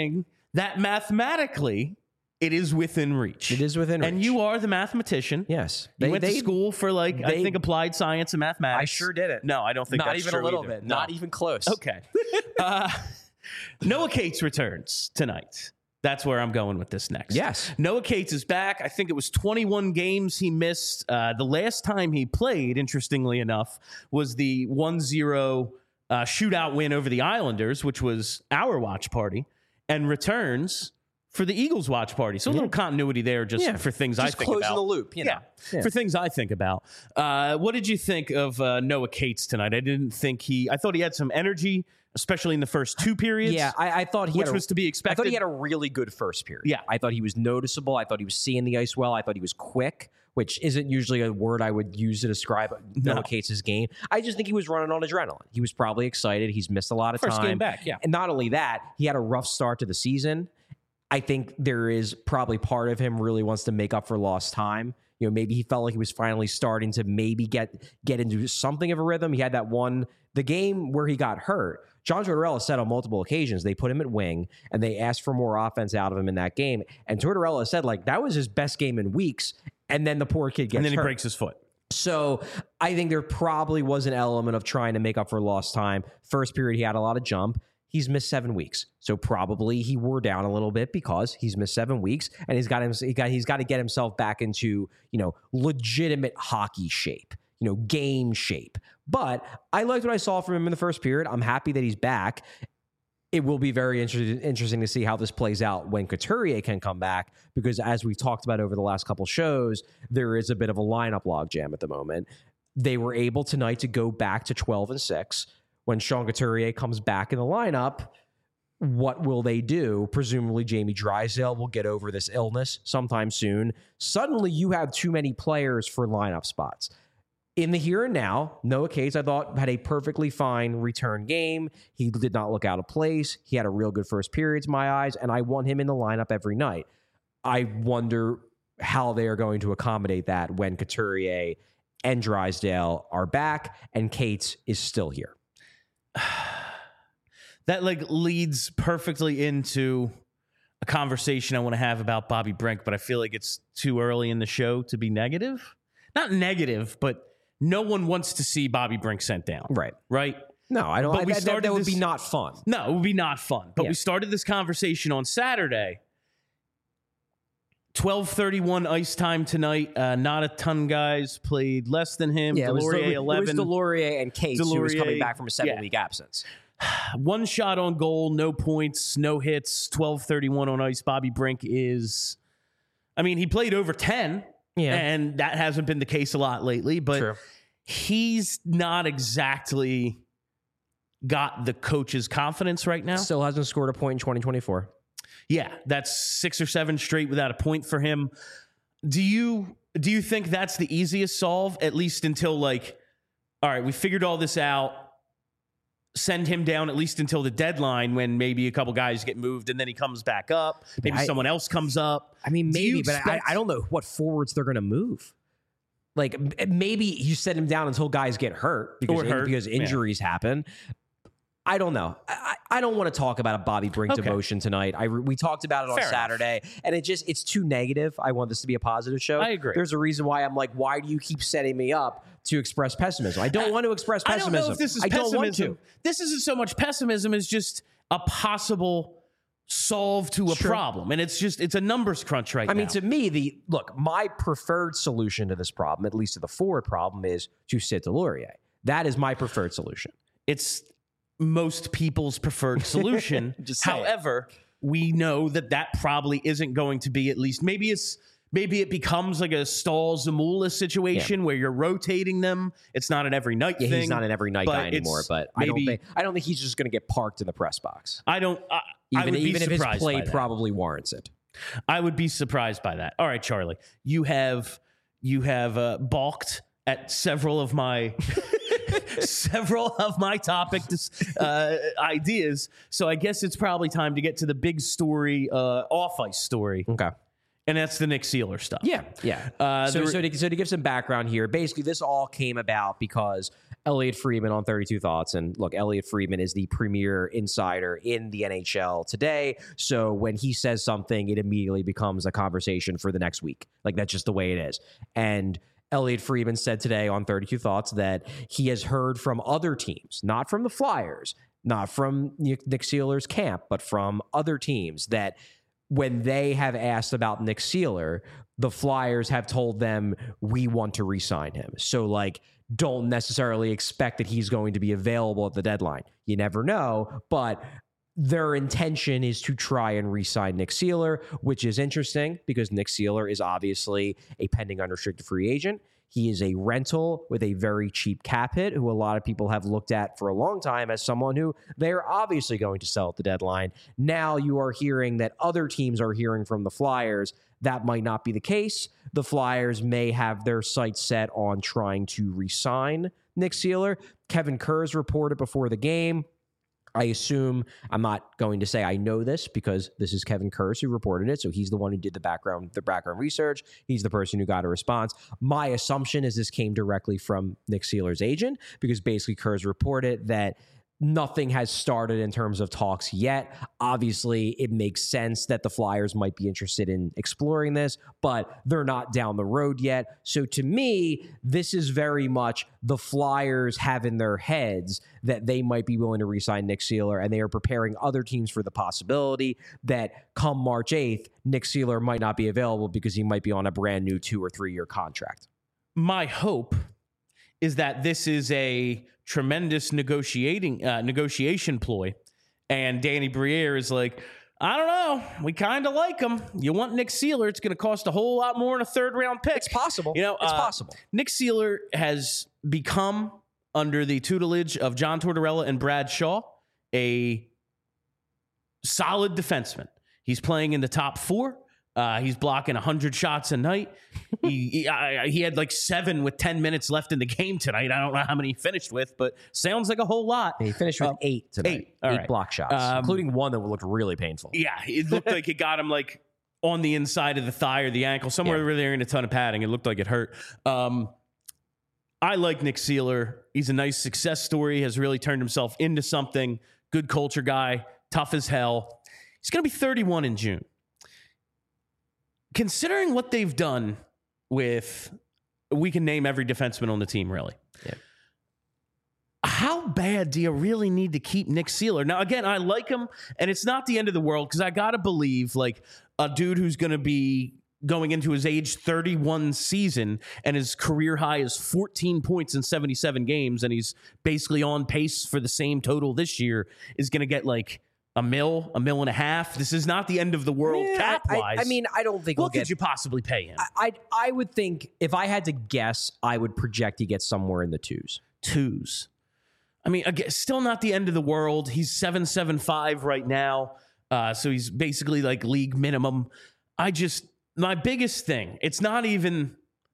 that mathematically it is within reach. It is within reach. And you are the mathematician. Yes. You They- went they- to school for like, I they- think, applied science and mathematics. I sure didn't. No, I don't think Not that's even true a little either. bit. No. Not even close. Okay. uh, Noah Cates returns tonight. That's where I'm going with this next. Yes. Noah Cates is back. I think it was twenty-one games he missed. Uh, the last time he played, interestingly enough, was the one zero uh, shootout win over the Islanders, which was our watch party, and returns for the Eagles watch party. So a little continuity there just Yeah. for things I Just think closing about. the loop, you know. Yeah. Yeah. For things I think about. Uh, what did you think of uh, Noah Cates tonight? I didn't think he, I thought he had some energy, especially in the first two periods. Yeah, I, I thought he which had a, was to be I expected. thought he had a really good first period. Yeah. I thought he was noticeable. I thought he was seeing the ice well. I thought he was quick, which isn't usually a word I would use to describe No. Noah Cates' game. I just think he was running on adrenaline. He was probably excited. He's missed a lot of First time. game back, yeah. And not only that, he had a rough start to the season. I think there is probably part of him really wants to make up for lost time. You know, maybe he felt like he was finally starting to maybe get get into something of a rhythm. He had that one, the game where he got hurt. John Tortorella said on multiple occasions they put him at wing and they asked for more offense out of him in that game. And Tortorella said like that was his best game in weeks. And then the poor kid gets and then he hurt. breaks his foot. So I think there probably was an element of trying to make up for lost time. First period, he had a lot of jump. He's missed seven weeks, so probably he wore down a little bit because he's missed seven weeks, and he's got him. He got he's got to get himself back into you know legitimate hockey shape, you know game shape. But I liked what I saw from him in the first period. I'm happy that he's back. It will be very inter- interesting to see how this plays out when Couturier can come back, because as we've talked about over the last couple shows, there is a bit of a lineup logjam at the moment. They were able tonight to go back to twelve and six. When Sean Couturier comes back in the lineup, what will they do? Presumably Jamie Drysdale will get over this illness sometime soon. Suddenly you have too many players for lineup spots. In the here and now, Noah Cates, I thought, had a perfectly fine return game. He did not look out of place. He had a real good first period to my eyes, and I want him in the lineup every night. I wonder how they are going to accommodate that when Couturier and Drysdale are back and Cates is still here. That like leads perfectly into a conversation I want to have about Bobby Brink, but I feel like it's too early in the show to be negative. Not negative, but no one wants to see Bobby Brink sent down. Right. Right? No, I don't. But I, we that, started that would this- be not fun. No, it would be not fun. But Yeah. we started this conversation on Saturday. twelve thirty-one ice time tonight. Uh, not a ton guys played less than him. Yeah, it was, Delorier Del- eleven. it was Delorier and Cates who was Delorier, coming back from a yeah. seven-week absence. One shot on goal, no points, no hits, twelve thirty-one on ice. Bobby Brink is, I mean, he played over ten, Yeah. and that hasn't been the case a lot lately, but True. he's not exactly got the coach's confidence right now. Still hasn't scored a point in twenty twenty-four. Yeah, that's six or seven straight without a point for him. Do you do you think that's the easiest solve, at least until like, all right, we figured all this out, send him down at least until the deadline when maybe a couple guys get moved and then he comes back up. Maybe I- someone else comes up. I mean, Do you maybe, but I, expect- I don't know what forwards they're going to move. Like m- maybe you set him down until guys get hurt because Or hurt, because yeah. injuries happen. I don't know. I, I I don't want to talk about a Bobby Brink Okay. demotion tonight. I re- we talked about it on Fair enough. Saturday, and it just it's too negative. I want this to be a positive show. I agree. There's a reason why I'm like, why do you keep setting me up to express pessimism? I don't want to express I don't pessimism. know if this is I don't want pessimism. to. This isn't so much pessimism as just a possible solve to a Sure. problem. And it's just, it's a numbers crunch right I now. mean, to me, the look, my preferred solution to this problem, at least to the forward problem, is to sit Delorier. That is my preferred solution. It's most people's preferred solution. Just say it. However, we know that that probably isn't going to be, at least maybe it's maybe it becomes like a Stahl Zamula situation where you're rotating them. It's not an every night Yeah, thing. he's not an every night but guy anymore, it's but I don't maybe- think I don't think he's just going to get parked in the press box. I don't. I, I Even would be even if his surprised play by that. probably warrants it. I would be surprised by that. All right, Charlie, you have you have uh, balked at several of my several of my topic uh, ideas. So I guess it's probably time to get to the big story, uh, off ice story, Okay. and that's the Nick Sealer stuff. Yeah, yeah. Uh, so, there- so, to, so to give some background here, basically this all came about because Elliot Friedman on thirty-two Thoughts. And look, Elliot Friedman is the premier insider in the N H L today. So when he says something, it immediately becomes a conversation for the next week. Like, that's just the way it is. And Elliot Friedman said today on thirty-two Thoughts that he has heard from other teams, not from the Flyers, not from Nick Seeler's camp, but from other teams, that when they have asked about Nick Seeler, the Flyers have told them, we want to re-sign him. So, like, don't necessarily expect that he's going to be available at the deadline. You never know, but their intention is to try and re-sign Nick Seeler, which is interesting because Nick Seeler is obviously a pending unrestricted free agent. He is a rental with a very cheap cap hit, who a lot of people have looked at for a long time as someone who they're obviously going to sell at the deadline. Now you are hearing that other teams are hearing from the Flyers. That might not be the case. The Flyers may have their sights set on trying to re-sign Nick Seeler. Kevin Kurz reported before the game. I assume, I'm not going to say I know this because this is Kevin Kurz who reported it, so he's the one who did the background the background research. He's the person who got a response. My assumption is this came directly from Nick Seeler's agent, because basically Kurz reported that nothing has started in terms of talks yet. Obviously, it makes sense that the Flyers might be interested in exploring this, but they're not down the road yet. So to me, this is very much the Flyers have in their heads that they might be willing to re-sign Nick Seeler, and they are preparing other teams for the possibility that come March eighth, Nick Seeler might not be available because he might be on a brand new two or three year contract. My hope is that this is a tremendous negotiating uh, negotiation ploy, and Danny Briere is like, I don't know, we kind of like him. You want Nick Seeler, it's going to cost a whole lot more than a third round pick. It's possible. You know, it's uh, possible. Nick Seeler has become, under the tutelage of John Tortorella and Brad Shaw, a solid defenseman. He's playing in the top four. Uh, he's blocking one hundred shots a night. he he, I, he had like seven with ten minutes left in the game tonight. I don't know how many he finished with, but sounds like a whole lot. He finished with uh, eight tonight. Eight, All eight right. block shots, um, including one that looked really painful. Yeah, it looked like it got him like on the inside of the thigh or the ankle, somewhere Yeah. where they're in a ton of padding. It looked like it hurt. Um, I like Nick Seeler. He's a nice success story, has really turned himself into something. Good culture guy, tough as hell. He's going to be thirty-one in June. Considering what they've done with, we can name every defenseman on the team, really. Yeah. How bad do you really need to keep Nick Seeler? Now, again, I like him, and it's not the end of the world, because I got to believe, like, a dude who's going to be going into his age thirty-one season, and his career high is fourteen points in seventy-seven games, and he's basically on pace for the same total this year, is going to get, like, a mil, a mil and a half. This is not the end of the world Yeah, cap-wise. I, I mean, I don't think what we'll could get, you possibly pay him? I, I I would think, if I had to guess, I would project he gets somewhere in the twos. Twos. I mean, again, still not the end of the world. He's seven seven five right now, uh, so he's basically like league minimum. I just, my biggest thing, it's not even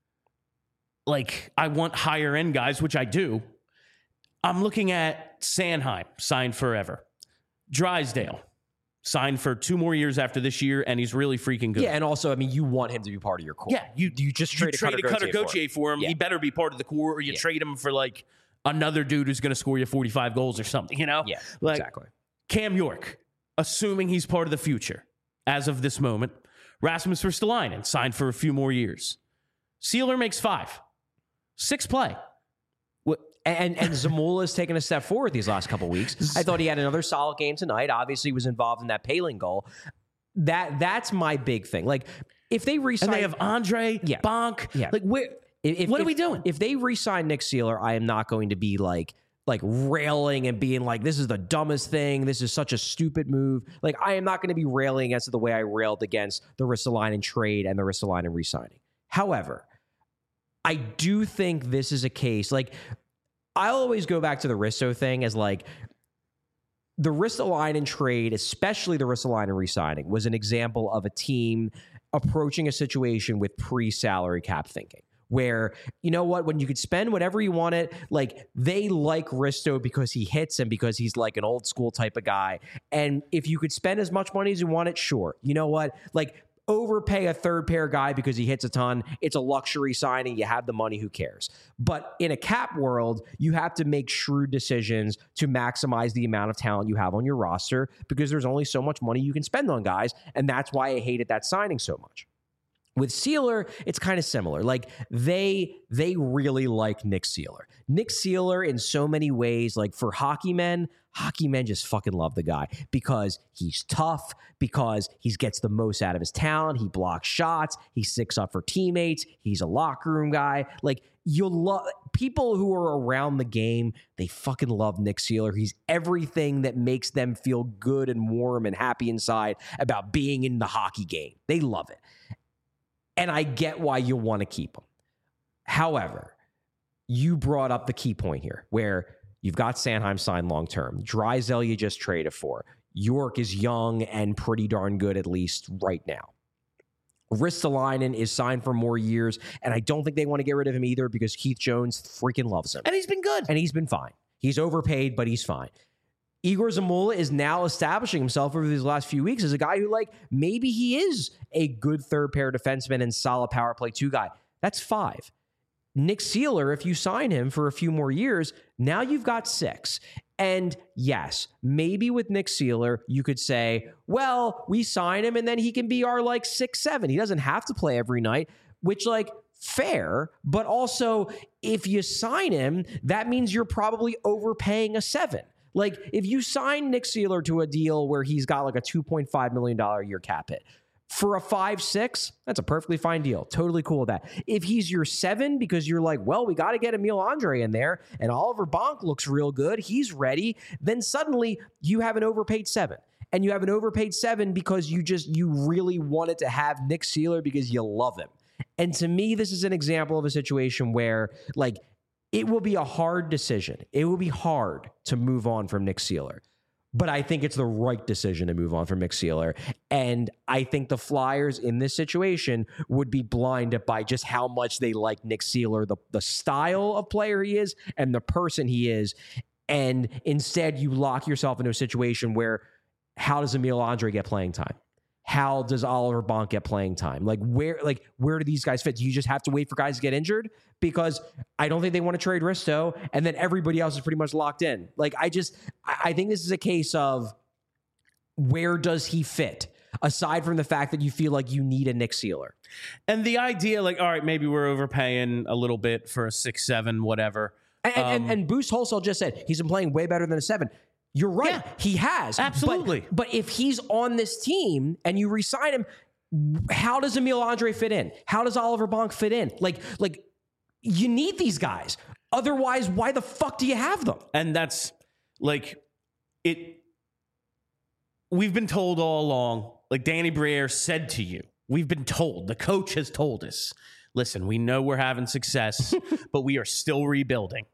like I want higher end guys, which I do. I'm looking at Sanheim, signed forever. Drysdale, signed for two more years after this year, and he's really freaking good. Yeah, and also, I mean, you want him to be part of your core. Yeah, you you just you trade a trade a Cutter Gauthier for him. Yeah. He better be part of the core, or you Yeah. trade him for like another dude who's going to score you forty-five goals or something. You know? Yeah, like, exactly. Cam York, assuming he's part of the future as of this moment. Rasmus Ristolainen, signed for a few more years. Seeler makes five. Six play. What? And and Zamula's taken a step forward these last couple weeks. I thought he had another solid game tonight. Obviously, he was involved in that Paling goal. That that's my big thing. Like, if they re-sign, And they have Andre, Yeah. Bonk. Yeah. Like, where? if, what if, are we doing? If they re-sign Nick Seeler, I am not going to be like like railing and being like, this is the dumbest thing. This is such a stupid move. Like, I am not going to be railing against it the way I railed against the Ristolainen trade and the Ristolainen re-signing. However, I do think this is a case, like, I'll always go back to the Risto thing as like the Ristolainen trade, especially the Ristolainen re-signing, was an example of a team approaching a situation with pre-salary cap thinking. Where, you know what, when you could spend whatever you wanted, like, they like Risto because he hits and because he's like an old school type of guy. And if you could spend as much money as you wanted, sure. You know what? Like, overpay a third pair guy because he hits a ton. It's a luxury signing. You have the money. Who cares? But in a cap world, you have to make shrewd decisions to maximize the amount of talent you have on your roster because there's only so much money you can spend on guys. And that's why I hated that signing so much. With Sealer, it's kind of similar. Like they they really like Nick Sealer. Nick Sealer in so many ways, like for hockey men, hockey men just fucking love the guy because he's tough, because he gets the most out of his talent. He blocks shots. He sticks up for teammates. He's a locker room guy. Like you'll love people who are around the game. They fucking love Nick Sealer. He's everything that makes them feel good and warm and happy inside about being in the hockey game. They love it. And I get why you want to keep him. However, you brought up the key point here where you've got Sanheim signed long-term. Drysdale you just traded for. York is young and pretty darn good, at least right now. Ristolainen is signed for more years, and I don't think they want to get rid of him either because Keith Jones freaking loves him. And he's been good. And he's been fine. He's overpaid, but he's fine. Igor Zamula is now establishing himself over these last few weeks as a guy who, like, maybe he is a good third pair defenseman and solid power play two guy. That's five. Nick Sealer, if you sign him for a few more years, now you've got six. And yes, maybe with Nick Sealer, you could say, well, we sign him and then he can be our like six, seven. He doesn't have to play every night, which like fair, but also if you sign him, that means you're probably overpaying a seven. Like, if you sign Nick Sealer to a deal where he's got like a two point five million dollars a year cap hit, for a five six, that's a perfectly fine deal. Totally cool with that. If he's your seven because you're like, well, we got to get Emil Andre in there, and Oliver Bonk looks real good, he's ready, then suddenly you have an overpaid seven. And you have an overpaid seven because you just, you really wanted to have Nick Sealer because you love him. And to me, this is an example of a situation where, like, it will be a hard decision. It will be hard to move on from Nick Sealer. But I think it's the right decision to move on from Nick Sealer. And I think the Flyers in this situation would be blinded by just how much they like Nick Sealer, the, the style of player he is and the person he is. And instead, you lock yourself into a situation where how does Emil Andre get playing time? How does Oliver Bonk get playing time? Like where, like where do these guys fit? Do you just have to wait for guys to get injured? Because I don't think they want to trade Risto, and then everybody else is pretty much locked in. Like I just, I think this is a case of where does he fit? Aside from the fact that you feel like you need a Nick Sealer. And the idea, like, all right, maybe we're overpaying a little bit for a six, seven, whatever. And, um, and, and Boost Wholesale just said he's been playing way better than a seven. You're right. Yeah, he has. Absolutely. But, but if he's on this team and you re-sign him, how does Emil Andre fit in? How does Oliver Bonk fit in? Like, like you need these guys. Otherwise, why the fuck do you have them? And that's like it. We've been told all along, like Danny Briere said to you, we've been told, the coach has told us, listen, we know we're having success, but we are still rebuilding.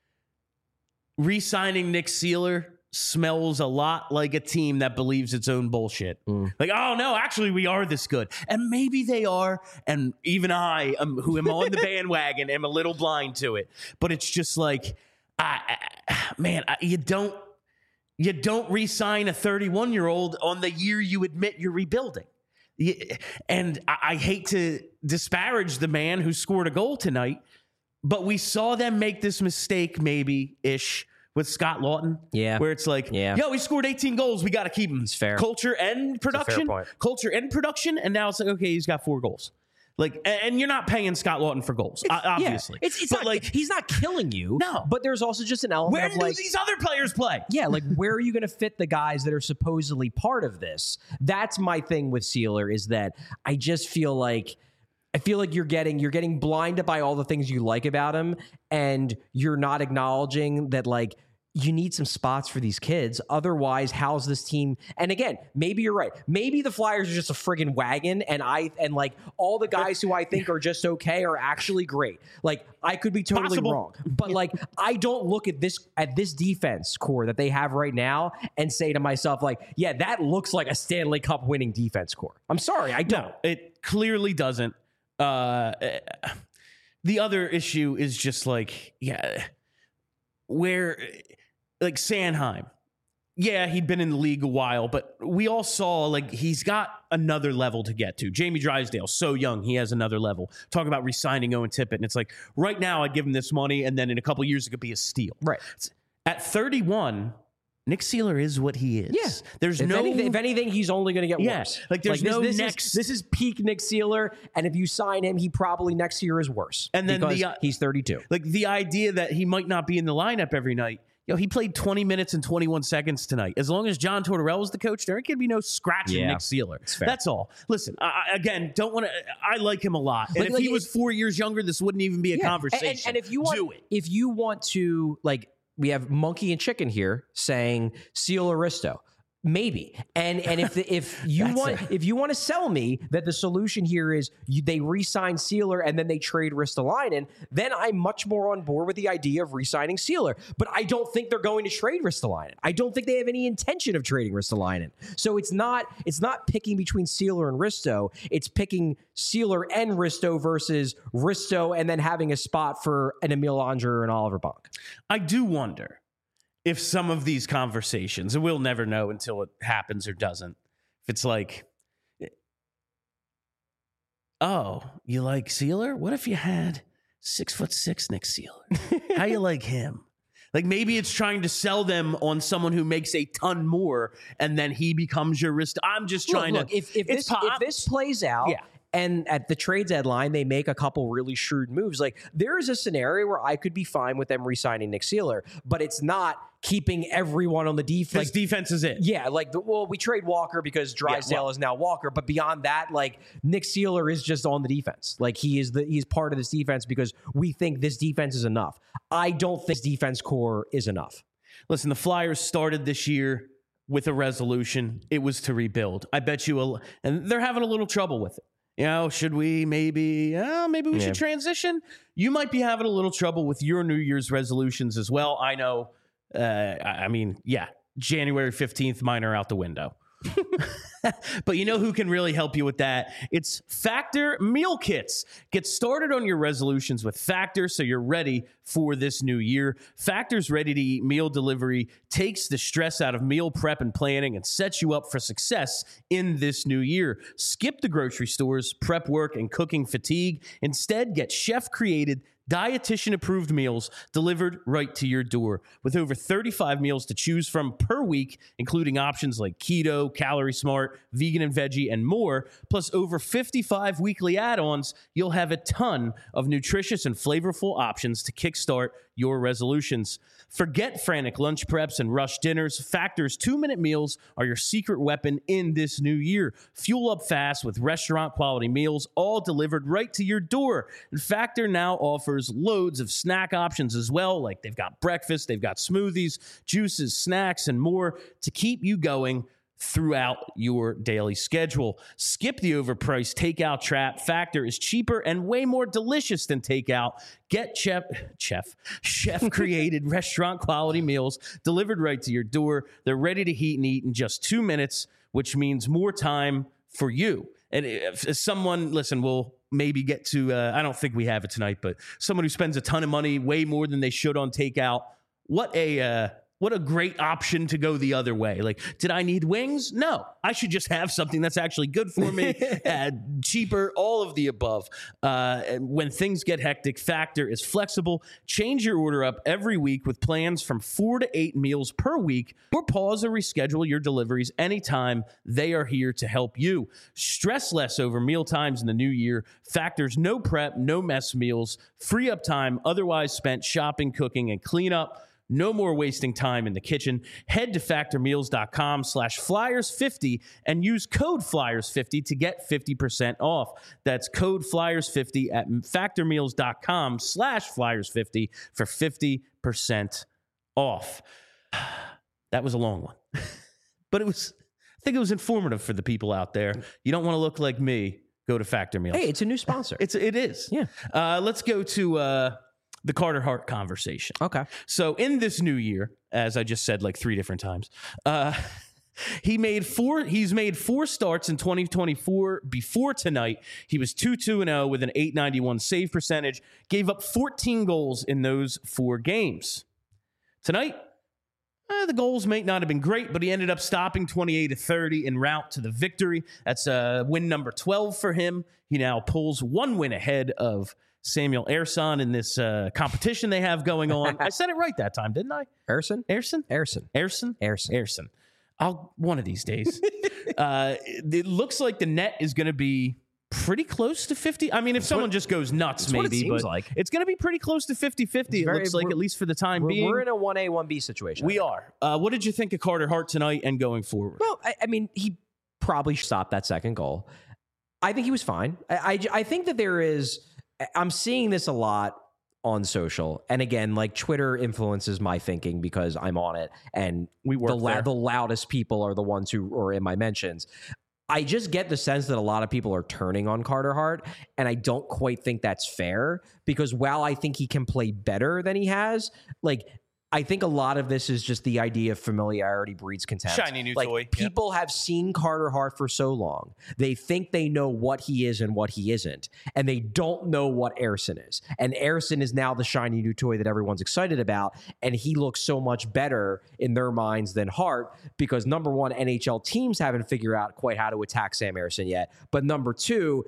Re-signing Nick Sealer smells a lot like a team that believes its own bullshit. Mm. Like, oh no, actually we are this good. And maybe they are. And even I, um, who am on the bandwagon, am a little blind to it. But it's just like, I, I, man, I, you don't, you don't re-sign a thirty-one-year-old on the year you admit you're rebuilding. You, and I, I hate to disparage the man who scored a goal tonight, but we saw them make this mistake maybe-ish with Scott Lawton. Yeah. Where it's like, yeah. yo, he scored eighteen goals. We got to keep him. It's fair. Culture and production. Culture and production. And now it's like, okay, he's got four goals. Like, and you're not paying Scott Lawton for goals, it's, obviously. Yeah. It's, it's but not, like, he's not killing you. No. But there's also just an element where of do like, these other players play? Yeah, like where are you going to fit the guys that are supposedly part of this? That's my thing with Sealer is that I just feel like I feel like you're getting you're getting blinded by all the things you like about him, and you're not acknowledging that like you need some spots for these kids. Otherwise, how's this team? And again, maybe you're right. Maybe the Flyers are just a friggin' wagon, and I and like all the guys who I think are just okay are actually great. Like I could be totally Possible. wrong, but like I don't look at this at this defense core that they have right now and say to myself like, yeah, that looks like a Stanley Cup winning defense core. I'm sorry, I don't. No, it clearly doesn't. Uh, the other issue is just like, yeah, where. Like Sanheim, yeah, he'd been in the league a while, but we all saw like he's got another level to get to. Jamie Drysdale, so young, he has another level. Talk about re-signing Owen Tippett, and it's like right now I'd give him this money, and then in a couple of years it could be a steal. Right. At thirty-one, Nick Seeler is what he is. Yeah. There's if no... Anything, if anything, he's only going to get yeah, worse. Like, there's like, no this, this next... Is, this is peak Nick Seeler, and if you sign him, he probably next year is worse. And then because the, uh, he's thirty-two. Like, the idea that he might not be in the lineup every night. Yo, he played twenty minutes and twenty-one seconds tonight. As long as John Tortorella is the coach, there could be no scratching yeah, Nick Seeler. That's all. Listen, I, again, don't want to. I like him a lot. And like, if like he it, was four years younger, this wouldn't even be a yeah. conversation. And, and, and if you want, do it. If you want to, like, we have Monkey and Chicken here saying Seal Aristo. Maybe. And and if the, if you want a- if you want to sell me that the solution here is you, they re-sign Sealer and then they trade Ristolainen, then I'm much more on board with the idea of re-signing Sealer. But I don't think they're going to trade Ristolainen. I don't think they have any intention of trading Ristolainen. So it's not it's not picking between Sealer and Risto. It's picking Sealer and Risto versus Risto and then having a spot for an Emil Angerer or an Oliver Bonk. I do wonder if some of these conversations, and we'll never know until it happens or doesn't, if it's like, oh, you like Sealer? What if you had six foot six Nick Sealer? How you like him? Like maybe it's trying to sell them on someone who makes a ton more, and then he becomes your wrist. I'm just trying look, look, to. If, if, this, pop- if this plays out, yeah. And at the trade deadline, they make a couple really shrewd moves. Like there is a scenario where I could be fine with them re-signing Nick Sealer, but it's not keeping everyone on the defense. Like defense is it. Yeah, like the, well, we trade Walker because Drysdale yeah, well, is now Walker, but beyond that, like Nick Sealer is just on the defense. Like he is the he's part of this defense because we think this defense is enough. I don't think this defense core is enough. Listen, the Flyers started this year with a resolution. It was to rebuild. I bet you, a, and they're having a little trouble with it. You know, should we maybe, uh, maybe we yeah. should transition? You might be having a little trouble with your New Year's resolutions as well. I know, uh, I mean, yeah, January fifteenth, mine are out the window. But you know who can really help you with that? It's Factor Meal Kits. Get started on your resolutions with Factor so you're ready for this new year. Factor's ready-to-eat meal delivery takes the stress out of meal prep and planning and sets you up for success in this new year. Skip the grocery stores, prep work, and cooking fatigue. Instead, get chef-created, dietitian-approved meals delivered right to your door. With over thirty-five meals to choose from per week, including options like keto, calorie smart, vegan and veggie, and more, plus over fifty-five weekly add-ons, you'll have a ton of nutritious and flavorful options to kickstart your resolutions. Forget frantic lunch preps and rush dinners. Factor's two-minute meals are your secret weapon in this new year. Fuel up fast with restaurant-quality meals, all delivered right to your door. And Factor now offers loads of snack options as well, like they've got breakfast, they've got smoothies, juices, snacks, and more to keep you going throughout your daily schedule. Skip the overpriced takeout trap. Factor is cheaper and way more delicious than takeout. Get chef, chef, chef-created restaurant-quality meals delivered right to your door. They're ready to heat and eat in just two minutes, which means more time for you. And if, if someone, listen, we'll maybe get to, uh, I don't think we have it tonight, but someone who spends a ton of money, way more than they should on takeout, what a... Uh, What a great option to go the other way. Like, did I need wings? No. I should just have something that's actually good for me, uh, cheaper, all of the above. Uh, and when things get hectic, Factor is flexible. Change your order up every week with plans from four to eight meals per week, or pause or reschedule your deliveries anytime. They are here to help you. Stress less over meal times in the new year. Factor's no prep, no mess meals. Free up time otherwise spent shopping, cooking, and cleanup. No more wasting time in the kitchen. Head to factormeals.com slash flyers fifty and use code flyers fifty to get fifty percent off. That's code flyers fifty at factormeals.com slash flyers fifty for fifty percent off. That was a long one, but it was, I think it was informative for the people out there. You don't want to look like me. Go to Factor Meals. Hey, it's a new sponsor. It's, it is. Yeah. Uh, let's go to, uh, the Carter Hart conversation. Okay. So in this new year, as I just said like three different times, uh, he made four. He's made four starts in twenty twenty-four. Before tonight, he was two two and oh with an eight ninety-one save percentage. Gave up fourteen goals in those four games. Tonight, Uh, the goals may not have been great, but he ended up stopping twenty-eight to thirty en route to the victory. That's uh, win number twelve for him. He now pulls one win ahead of Samuel Ersson in this uh, competition they have going on. I said it right that time, didn't I? Ersson? Ersson? Ersson. Ersson? Ersson. Ersson. I'll one of these days. uh, it looks like the net is going to be pretty close to fifty. I mean, if someone what, just goes nuts, maybe, what it seems but like. It's going to be pretty close to fifty-fifty. It very, looks like, at least for the time we're, being. We're in a one A, one B situation. We are. Uh, what did you think of Carter Hart tonight and going forward? Well, I, I mean, he probably stopped that second goal. I think he was fine. I, I, I think that there is, I'm seeing this a lot on social. And again, like Twitter influences my thinking because I'm on it. And we work the, la- there. the loudest people are the ones who are in my mentions. I just get the sense that a lot of people are turning on Carter Hart, and I don't quite think that's fair because while I think he can play better than he has, like, I think a lot of this is just the idea of familiarity breeds contempt. Shiny new like, toy. People yep. have seen Carter Hart for so long. They think they know what he is and what he isn't, and they don't know what Ersson is. And Ersson is now the shiny new toy that everyone's excited about, and he looks so much better in their minds than Hart because, number one, N H L teams haven't figured out quite how to attack Sam Ersson yet, but number two,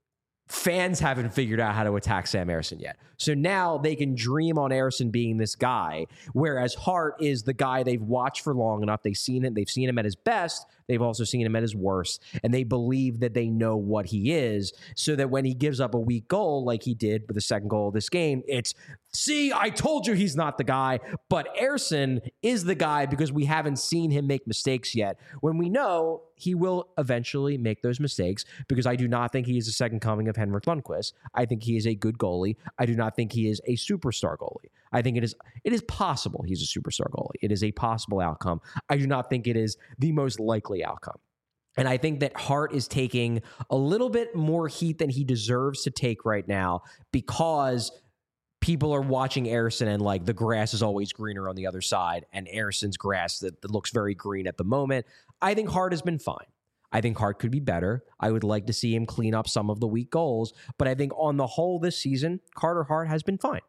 fans haven't figured out how to attack Sam Ersson yet. So now they can dream on Ersson being this guy, whereas Hart is the guy they've watched for long enough. They've seen it. They've seen him at his best. They've also seen him at his worst. And they believe that they know what he is so that when he gives up a weak goal like he did with the second goal of this game, it's, see, I told you he's not the guy. But Ersson is the guy because we haven't seen him make mistakes yet. When we know he will eventually make those mistakes because I do not think he is the second coming of Henrik Lundqvist. I think he is a good goalie. I do not think he is a superstar goalie. I think it is it is possible he's a superstar goalie. It is a possible outcome. I do not think it is the most likely outcome. And I think that Hart is taking a little bit more heat than he deserves to take right now because people are watching Ersson and like the grass is always greener on the other side and Ersson's grass that, that looks very green at the moment. I think Hart has been fine. I think Hart could be better. I would like to see him clean up some of the weak goals, but I think on the whole this season, Carter Hart has been fine.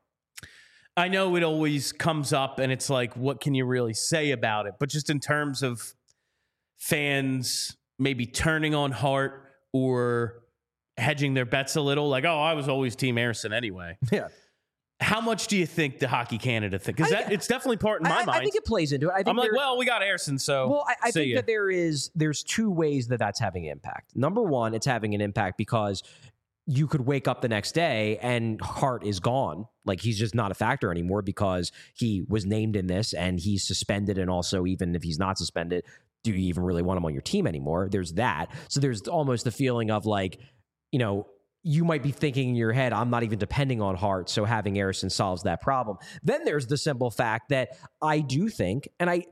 I know it always comes up and it's like, what can you really say about it? But just in terms of fans maybe turning on Hart or hedging their bets a little, like, oh, I was always Team Ersson anyway. Yeah. How much do you think the Hockey Canada think? Because that it's definitely part in my I, mind. I think it plays into it. I think I'm like, well, we got Ersson, so well, I, I think ya. that there is there's two ways that that's having impact. Number one, it's having an impact because you could wake up the next day and Hart is gone. Like he's just not a factor anymore because he was named in this and he's suspended. And also, even if he's not suspended, do you even really want him on your team anymore? There's that. So there's almost the feeling of like, you know, you might be thinking in your head, I'm not even depending on Hart, so having Ersson solves that problem. Then there's the simple fact that I do think, and I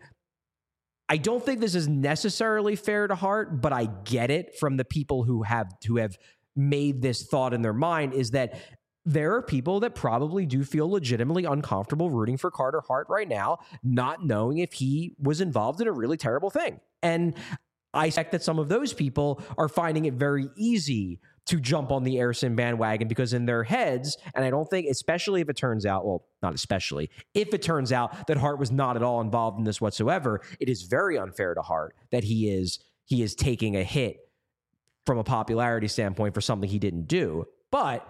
I don't think this is necessarily fair to Hart, but I get it from the people who have who have made this thought in their mind, is that there are people that probably do feel legitimately uncomfortable rooting for Carter Hart right now, not knowing if he was involved in a really terrible thing. And I suspect that some of those people are finding it very easy to jump on the Ersson bandwagon because in their heads, and I don't think, especially if it turns out, well, not especially, if it turns out that Hart was not at all involved in this whatsoever, it is very unfair to Hart that he is he is taking a hit from a popularity standpoint for something he didn't do. But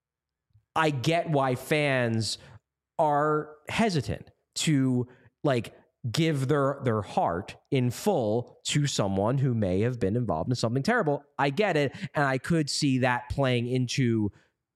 I get why fans are hesitant to like give their their heart in full to someone who may have been involved in something terrible. I get it, and I could see that playing into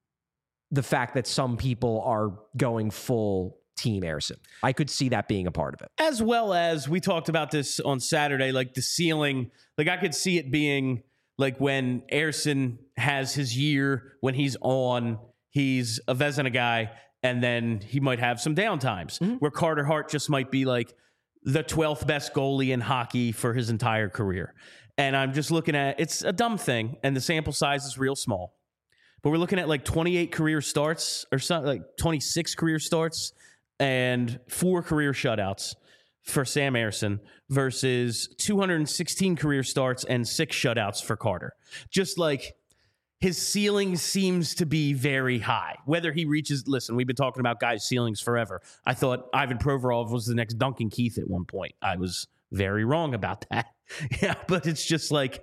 the fact that some people are going full Team Ersson. I could see that being a part of it. As well as we talked about this on Saturday, like the ceiling, like I could see it being like when Ersson has his year, when he's on, he's a Vezina guy, and then he might have some down times mm-hmm. where Carter Hart just might be like the twelfth best goalie in hockey for his entire career. And I'm just looking at, it's a dumb thing, and the sample size is real small. But we're looking at like twenty-eight career starts, or something like twenty-six career starts, and four career shutouts for Sam Ersson versus two hundred sixteen career starts and six shutouts for Carter. Just like, his ceiling seems to be very high. Whether he reaches, listen, we've been talking about guys' ceilings forever. I thought Ivan Provorov was the next Duncan Keith at one point. I was very wrong about that. Yeah, but it's just like,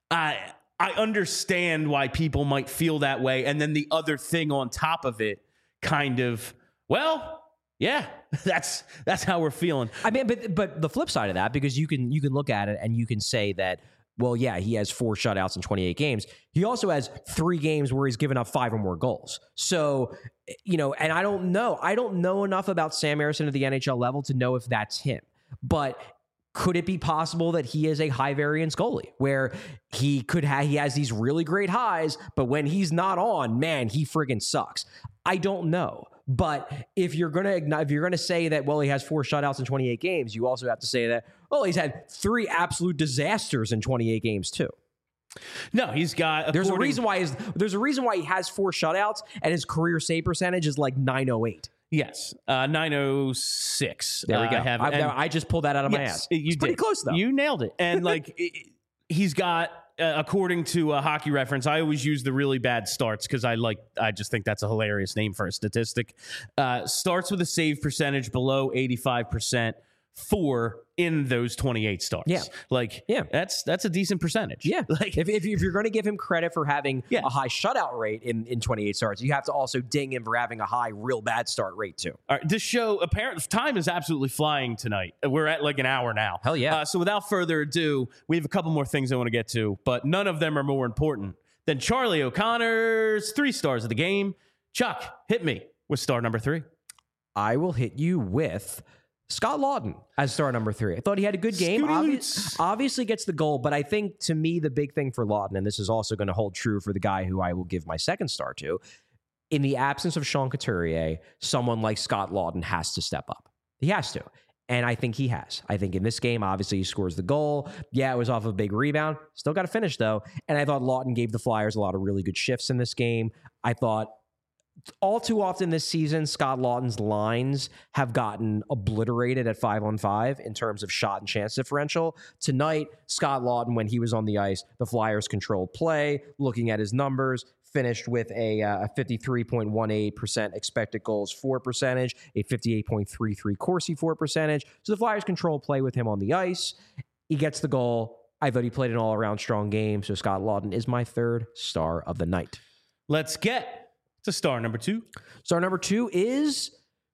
I I understand why people might feel that way. And then the other thing on top of it kind of, well, yeah, that's that's how we're feeling. I mean, but but the flip side of that, because you can you can look at it and you can say that, well, yeah, he has four shutouts in twenty-eight games. He also has three games where he's given up five or more goals. So, you know, and I don't know. I don't know enough about Sam Ersson at the N H L level to know if that's him. But could it be possible that he is a high variance goalie where he could have, he has these really great highs, but when he's not on, man, he friggin' sucks. I don't know. But if you're gonna if you're gonna say that, well, he has four shutouts in twenty-eight games, you also have to say that, well, he's had three absolute disasters in twenty-eight games too. No, he's got. There's a reason why his, there's a reason why he has four shutouts and his career save percentage is like nine oh eight. Yes, uh, nine oh six. There we go. Uh, I, have, I, and, I just pulled that out of yes, my ass. You it's did. pretty close though. You nailed it. And like it, he's got. Uh, according to a Hockey Reference, I always use the really bad starts because I like I just think that's a hilarious name for a statistic. Uh, starts with a save percentage below eighty-five percent for in those twenty-eight starts. Yeah, like yeah, that's that's a decent percentage. Yeah, like if if, if you're going to give him credit for having yeah. a high shutout rate in in twenty-eight starts, you have to also ding him for having a high real bad start rate too. All right, this show apparently time is absolutely flying tonight. We're at like an hour now. Hell yeah! Uh, so without further ado, we have a couple more things I want to get to, but none of them are more important than Charlie O'Connor's three stars of the game. Chuck, hit me with star number three. I will hit you with Scott Laughton as star number three. I thought he had a good game. Obvi- obviously gets the goal, but I think to me the big thing for Laughton, and this is also going to hold true for the guy who I will give my second star to, in the absence of Sean Couturier, someone like Scott Laughton has to step up. He has to. And I think he has. I think in this game, obviously, he scores the goal. Yeah, it was off a big rebound. Still got to finish, though. And I thought Laughton gave the Flyers a lot of really good shifts in this game. I thought all too often this season, Scott Laughton's lines have gotten obliterated at five on five in terms of shot and chance differential. Tonight, Scott Laughton, when he was on the ice, the Flyers controlled play. Looking at his numbers, finished with a, uh, a fifty-three point one eight percent expected goals for percentage, a fifty-eight point three three Corsi for percentage. So the Flyers controlled play with him on the ice. He gets the goal. I thought he played an all-around strong game. So Scott Laughton is my third star of the night. Let's get to star number two. Star number two is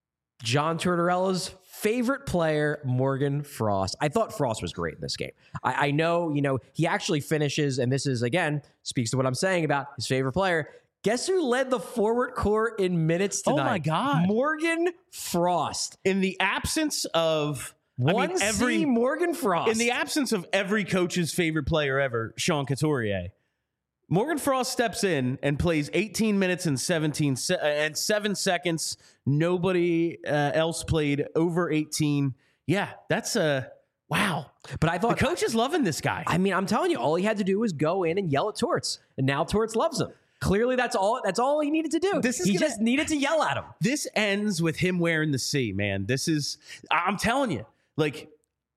John Tortorella's favorite player, Morgan Frost. I thought Frost was great in this game. I, I know, you know, he actually finishes, and this is, again, speaks to what I'm saying about his favorite player. Guess who led the forward core in minutes tonight? Oh, my God. Morgan Frost. In the absence of... One I mean, every C Morgan Frost. In the absence of every coach's favorite player ever, Sean Couturier, Morgan Frost steps in and plays eighteen minutes and seventeen se- and seven seconds. Nobody uh, else played over eighteen. Yeah, that's a wow. But I thought the coach is loving this guy. I mean, I'm telling you, all he had to do was go in and yell at Torts, and now Torts loves him. Clearly, that's all. That's all he needed to do. This is he gonna, just needed to yell at him. This ends with him wearing the C, man. This is. I'm telling you, like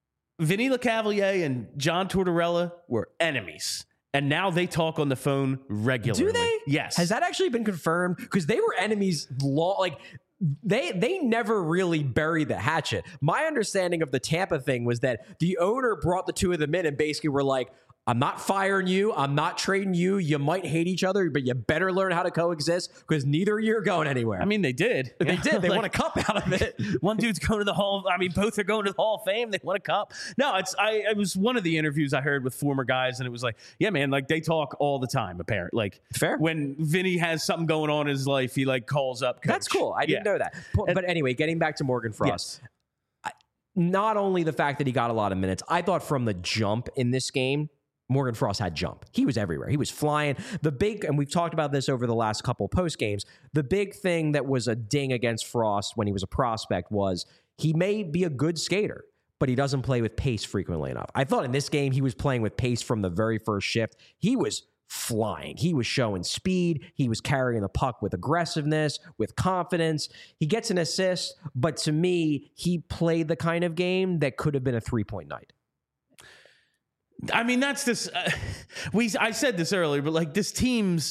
Vinny LeCavalier and John Tortorella were enemies. And now they talk on the phone regularly. Do they? Yes. Has that actually been confirmed? Because they were enemies long, like they they never really buried the hatchet. My understanding of the Tampa thing was that the owner brought the two of them in and basically were like, I'm not firing you. I'm not trading you. You might hate each other, but you better learn how to coexist because neither of you are going anywhere. I mean, they did. They did. They like, won a cup out of it. One dude's going to the Hall. I mean, both are going to the Hall of Fame. They won a cup. No, it's. I. It was one of the interviews I heard with former guys, and it was like, yeah, man, like they talk all the time. Apparently, like fair. When Vinny has something going on in his life, he like calls up coach. That's cool. I didn't yeah. know that. But, but anyway, getting back to Morgan Frost. Yes. I, not only the fact that he got a lot of minutes, I thought from the jump in this game, Morgan Frost had jump. He was everywhere. He was flying. The big, and we've talked about this over the last couple post games, the big thing that was a ding against Frost when he was a prospect was he may be a good skater, but he doesn't play with pace frequently enough. I thought in this game he was playing with pace from the very first shift. He was flying. He was showing speed. He was carrying the puck with aggressiveness, with confidence. He gets an assist, but to me, he played the kind of game that could have been a three-point night. I mean, that's this. Uh, we. I said this earlier, but like this team's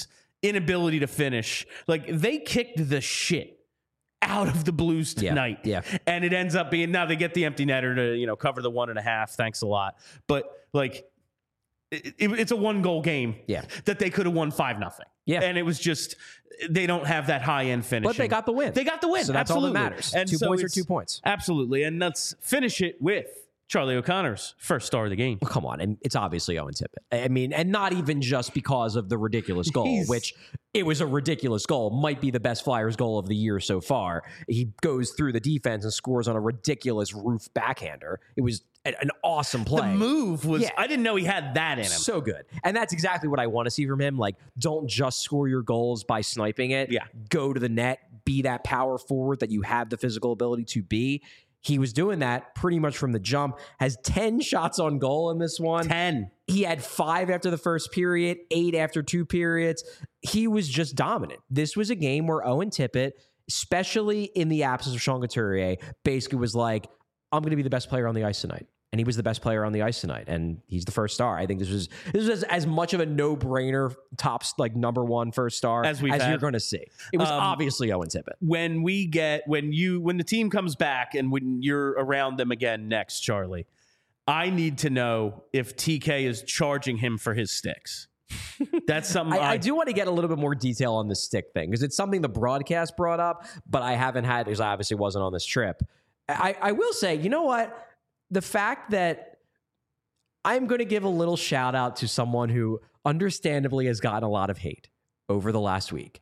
inability to finish. Like, they kicked the shit out of the Blues tonight. Yeah, yeah. And it ends up being, now they get the empty netter to, you know, cover the one and a half. Thanks a lot. But, like, it, it, it's a one-goal game Yeah. that they could have won five nothing. Yeah. And it was just, they don't have that high-end finish. But they got the win. They got the win. So that's absolutely. all that matters. And two so points are it's- two points. Absolutely. And let's finish it with Charlie O'Connor's first star of the game. Well, come on. And it's obviously Owen Tippett. I mean, and not even just because of the ridiculous goal, He's- which it was a ridiculous goal, might be the best Flyers goal of the year so far. He goes through the defense and scores on a ridiculous roof backhander. It was a- an awesome play. The move was, Yeah. I didn't know he had that in him. So good. And that's exactly what I want to see from him. Like, don't just score your goals by sniping it. Yeah. Go to the net, be that power forward that you have the physical ability to be. He was doing that pretty much from the jump. Has ten shots on goal in this one. ten. He had five after the first period, eight after two periods. He was just dominant. This was a game where Owen Tippett, especially in the absence of Sean Couturier, basically was like, I'm going to be the best player on the ice tonight. And he was the best player on the ice tonight. And he's the first star. I think this was this was as, as much of a no-brainer tops like number one first star As we've as had. you're going to see. It was Um, obviously Owen Tippett. When we get, when you, when the team comes back and when you're around them again next, Charlie, I need to know if T K is charging him for his sticks. That's something I, I, I do want to get a little bit more detail on the stick thing because it's something the broadcast brought up, but I haven't had because I obviously wasn't on this trip. I, I will say, you know what? The fact that I'm going to give a little shout out to someone who understandably has gotten a lot of hate over the last week.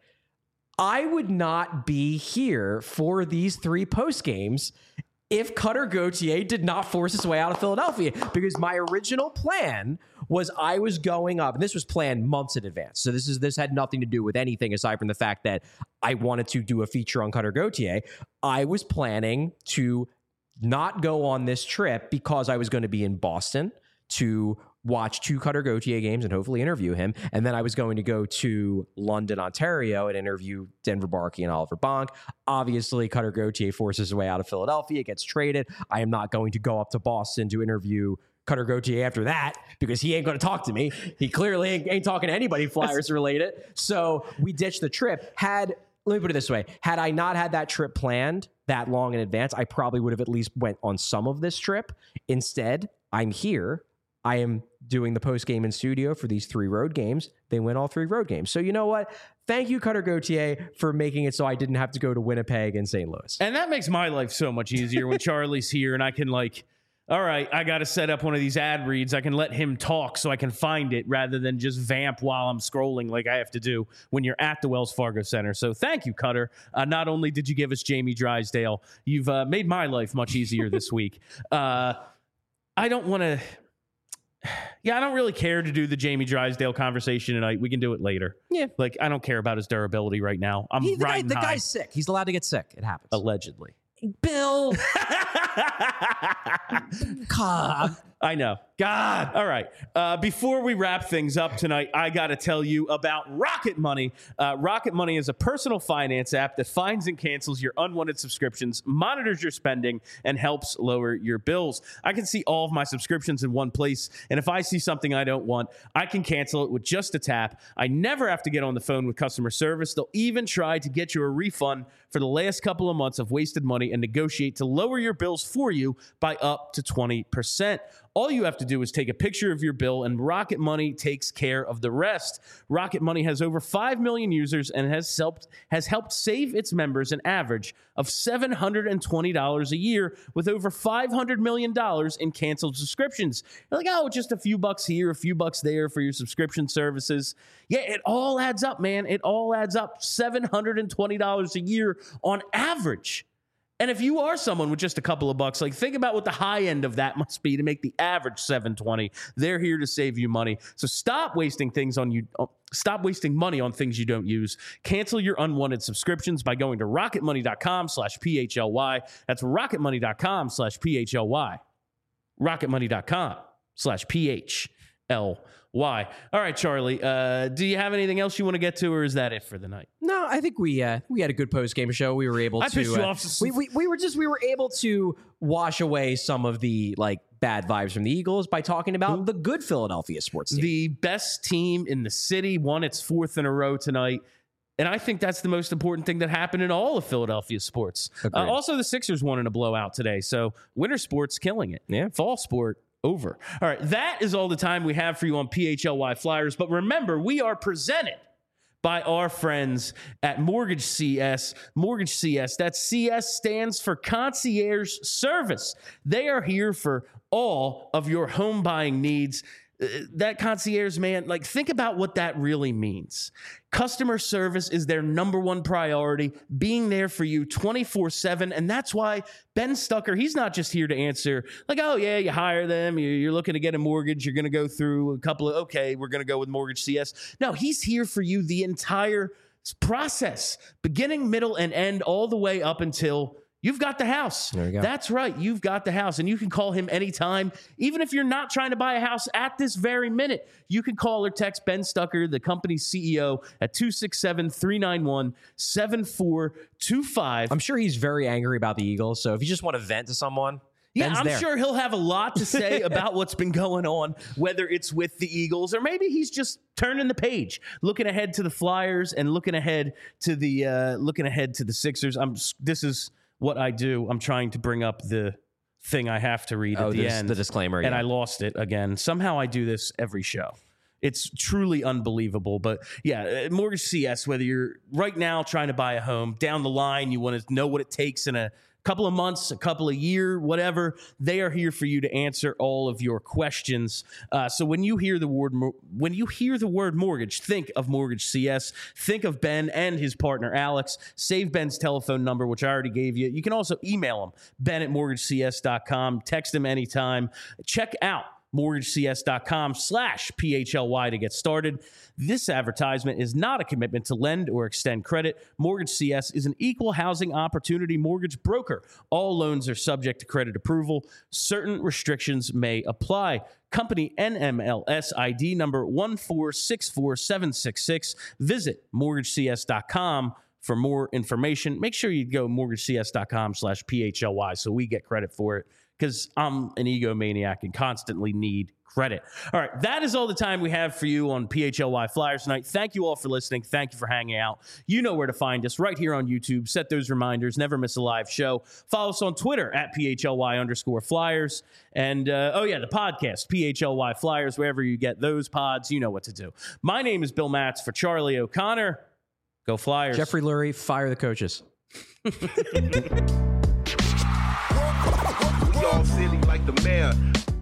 I would not be here for these three post games if Cutter Gauthier did not force his way out of Philadelphia, because my original plan was I was going up, and this was planned months in advance. So this is this had nothing to do with anything aside from the fact that I wanted to do a feature on Cutter Gauthier. I was planning to not go on this trip because I was going to be in Boston to watch two Cutter Gauthier games and hopefully interview him. And then I was going to go to London, Ontario and interview Denver Barkey and Oliver Bonk. Obviously, Cutter Gauthier forces his way out of Philadelphia, gets traded. I am not going to go up to Boston to interview Cutter Gauthier after that because he ain't going to talk to me. He clearly ain't, ain't talking to anybody Flyers related. So we ditched the trip. Had Let me put it this way. Had I not had that trip planned that long in advance, I probably would have at least went on some of this trip. Instead, I'm here. I am doing the post game in studio for these three road games. They win all three road games. So you know what? Thank you, Cutter Gauthier, for making it so I didn't have to go to Winnipeg and Saint Louis. and that makes my life so much easier when Charlie's here and I can like, all right, I got to set up one of these ad reads. I can let him talk so I can find it rather than just vamp while I'm scrolling like I have to do when you're at the Wells Fargo Center. So thank you, Cutter. Uh, not only did you give us Jamie Drysdale, you've uh, made my life much easier this week. Uh, I don't want to... Yeah, I don't really care to do the Jamie Drysdale conversation tonight. We can do it later. Yeah. Like, I don't care about his durability right now. I'm He, the guy, riding the high. guy's sick. He's allowed to get sick. It happens. Allegedly. Bill. God. I know. God. All right. Uh, before we wrap things up tonight, I got to tell you about Rocket Money. Uh, Rocket Money is a personal finance app that finds and cancels your unwanted subscriptions, monitors your spending, and helps lower your bills. I can see all of my subscriptions in one place, and if I see something I don't want, I can cancel it with just a tap. I never have to get on the phone with customer service. They'll even try to get you a refund for the last couple of months of wasted money and negotiate to lower your bills for you by up to twenty percent. All you have to do is take a picture of your bill, and Rocket Money takes care of the rest. Rocket Money has over five million users and has helped, has helped save its members an average of seven hundred twenty dollars a year with over five hundred million dollars in canceled subscriptions. You're like, oh, just a few bucks here, a few bucks there for your subscription services. Yeah, it all adds up, man. It all adds up. seven hundred twenty dollars a year on average. And if you are someone with just a couple of bucks, like think about what the high end of that must be to make the average seven twenty. They're here to save you money. So stop wasting things on you. Stop wasting money on things you don't use. Cancel your unwanted subscriptions by going to rocketmoney.com slash PHLY. That's rocketmoney.com slash PHLY. rocketmoney.com slash PHLY. L Y. All right, Charlie, uh, do you have anything else you want to get to, or is that it for the night? No, I think we uh, we had a good post game show. We were able I to. pissed you uh, off. we, we we were just we were able to wash away some of the like bad vibes from the Eagles by talking about Ooh. the good Philadelphia sports team. The best team in the city won its fourth in a row tonight. And I think that's the most important thing that happened in all of Philadelphia sports. Uh, also, the Sixers won in a blowout today. So winter sports killing it. Yeah. Fall sport over. All right. That is all the time we have for you on P H L Y Flyers. But remember, we are presented by our friends at Mortgage C S. Mortgage C S. That C S stands for Concierge Service. They are here for all of your home buying needs. Uh, that concierge, man, like think about what that really means. Customer service is their number one priority, being there for you twenty-four seven. And that's why Ben Stucker, he's not just here to answer like, oh, yeah, you hire them. You're looking to get a mortgage. You're going to go through a couple of, okay, we're going to go with Mortgage C S. No, he's here for you the entire process, beginning, middle, and end, all the way up until you've got the house. There you go. That's right. You've got the house, and you can call him anytime. Even if you're not trying to buy a house at this very minute, you can call or text Ben Stucker, the company's C E O, at two six seven, three nine one, seven four two five. I'm sure he's very angry about the Eagles. So if you just want to vent to someone, yeah, Ben's I'm there. sure he'll have a lot to say about what's been going on, whether it's with the Eagles or maybe he's just turning the page, looking ahead to the Flyers and looking ahead to the uh, looking ahead to the Sixers. I'm. This is what I do. I'm trying to bring up the thing I have to read oh, at the this, end. the disclaimer, and yeah. I lost it again. Somehow I do this every show. It's truly unbelievable. But yeah, Mortgage C S, whether you're right now trying to buy a home, down the line, you want to know what it takes in a couple of months, a couple of year, whatever, they are here for you to answer all of your questions. Uh, so when you hear the word when you hear the word mortgage, think of Mortgage C S. Think of Ben and his partner Alex. Save Ben's telephone number, which I already gave you. You can also email him, Ben at mortgage c s dot com. Text him anytime. Check out mortgagecs.com slash PHLY to get started. This advertisement is not a commitment to lend or extend credit. Mortgage C S is an equal housing opportunity mortgage broker. All loans are subject to credit approval. Certain restrictions may apply. Company N M L S I D number one four six four seven six six. Visit mortgage c s dot com for more information. Make sure you go mortgagecs.com slash PHLY so we get credit for it, because I'm an egomaniac and constantly need credit. All right, that is all the time we have for you on P H L Y Flyers tonight. Thank you all for listening. Thank you for hanging out. You know where to find us, right here on YouTube. Set those reminders. Never miss a live show. Follow us on Twitter at P H L Y underscore Flyers. And, uh, oh, yeah, the podcast, P H L Y Flyers, wherever you get those pods. You know what to do. My name is Bill Matz for Charlie O'Connor. Go Flyers. Jeffrey Lurie, fire the coaches. We all silly like the mayor.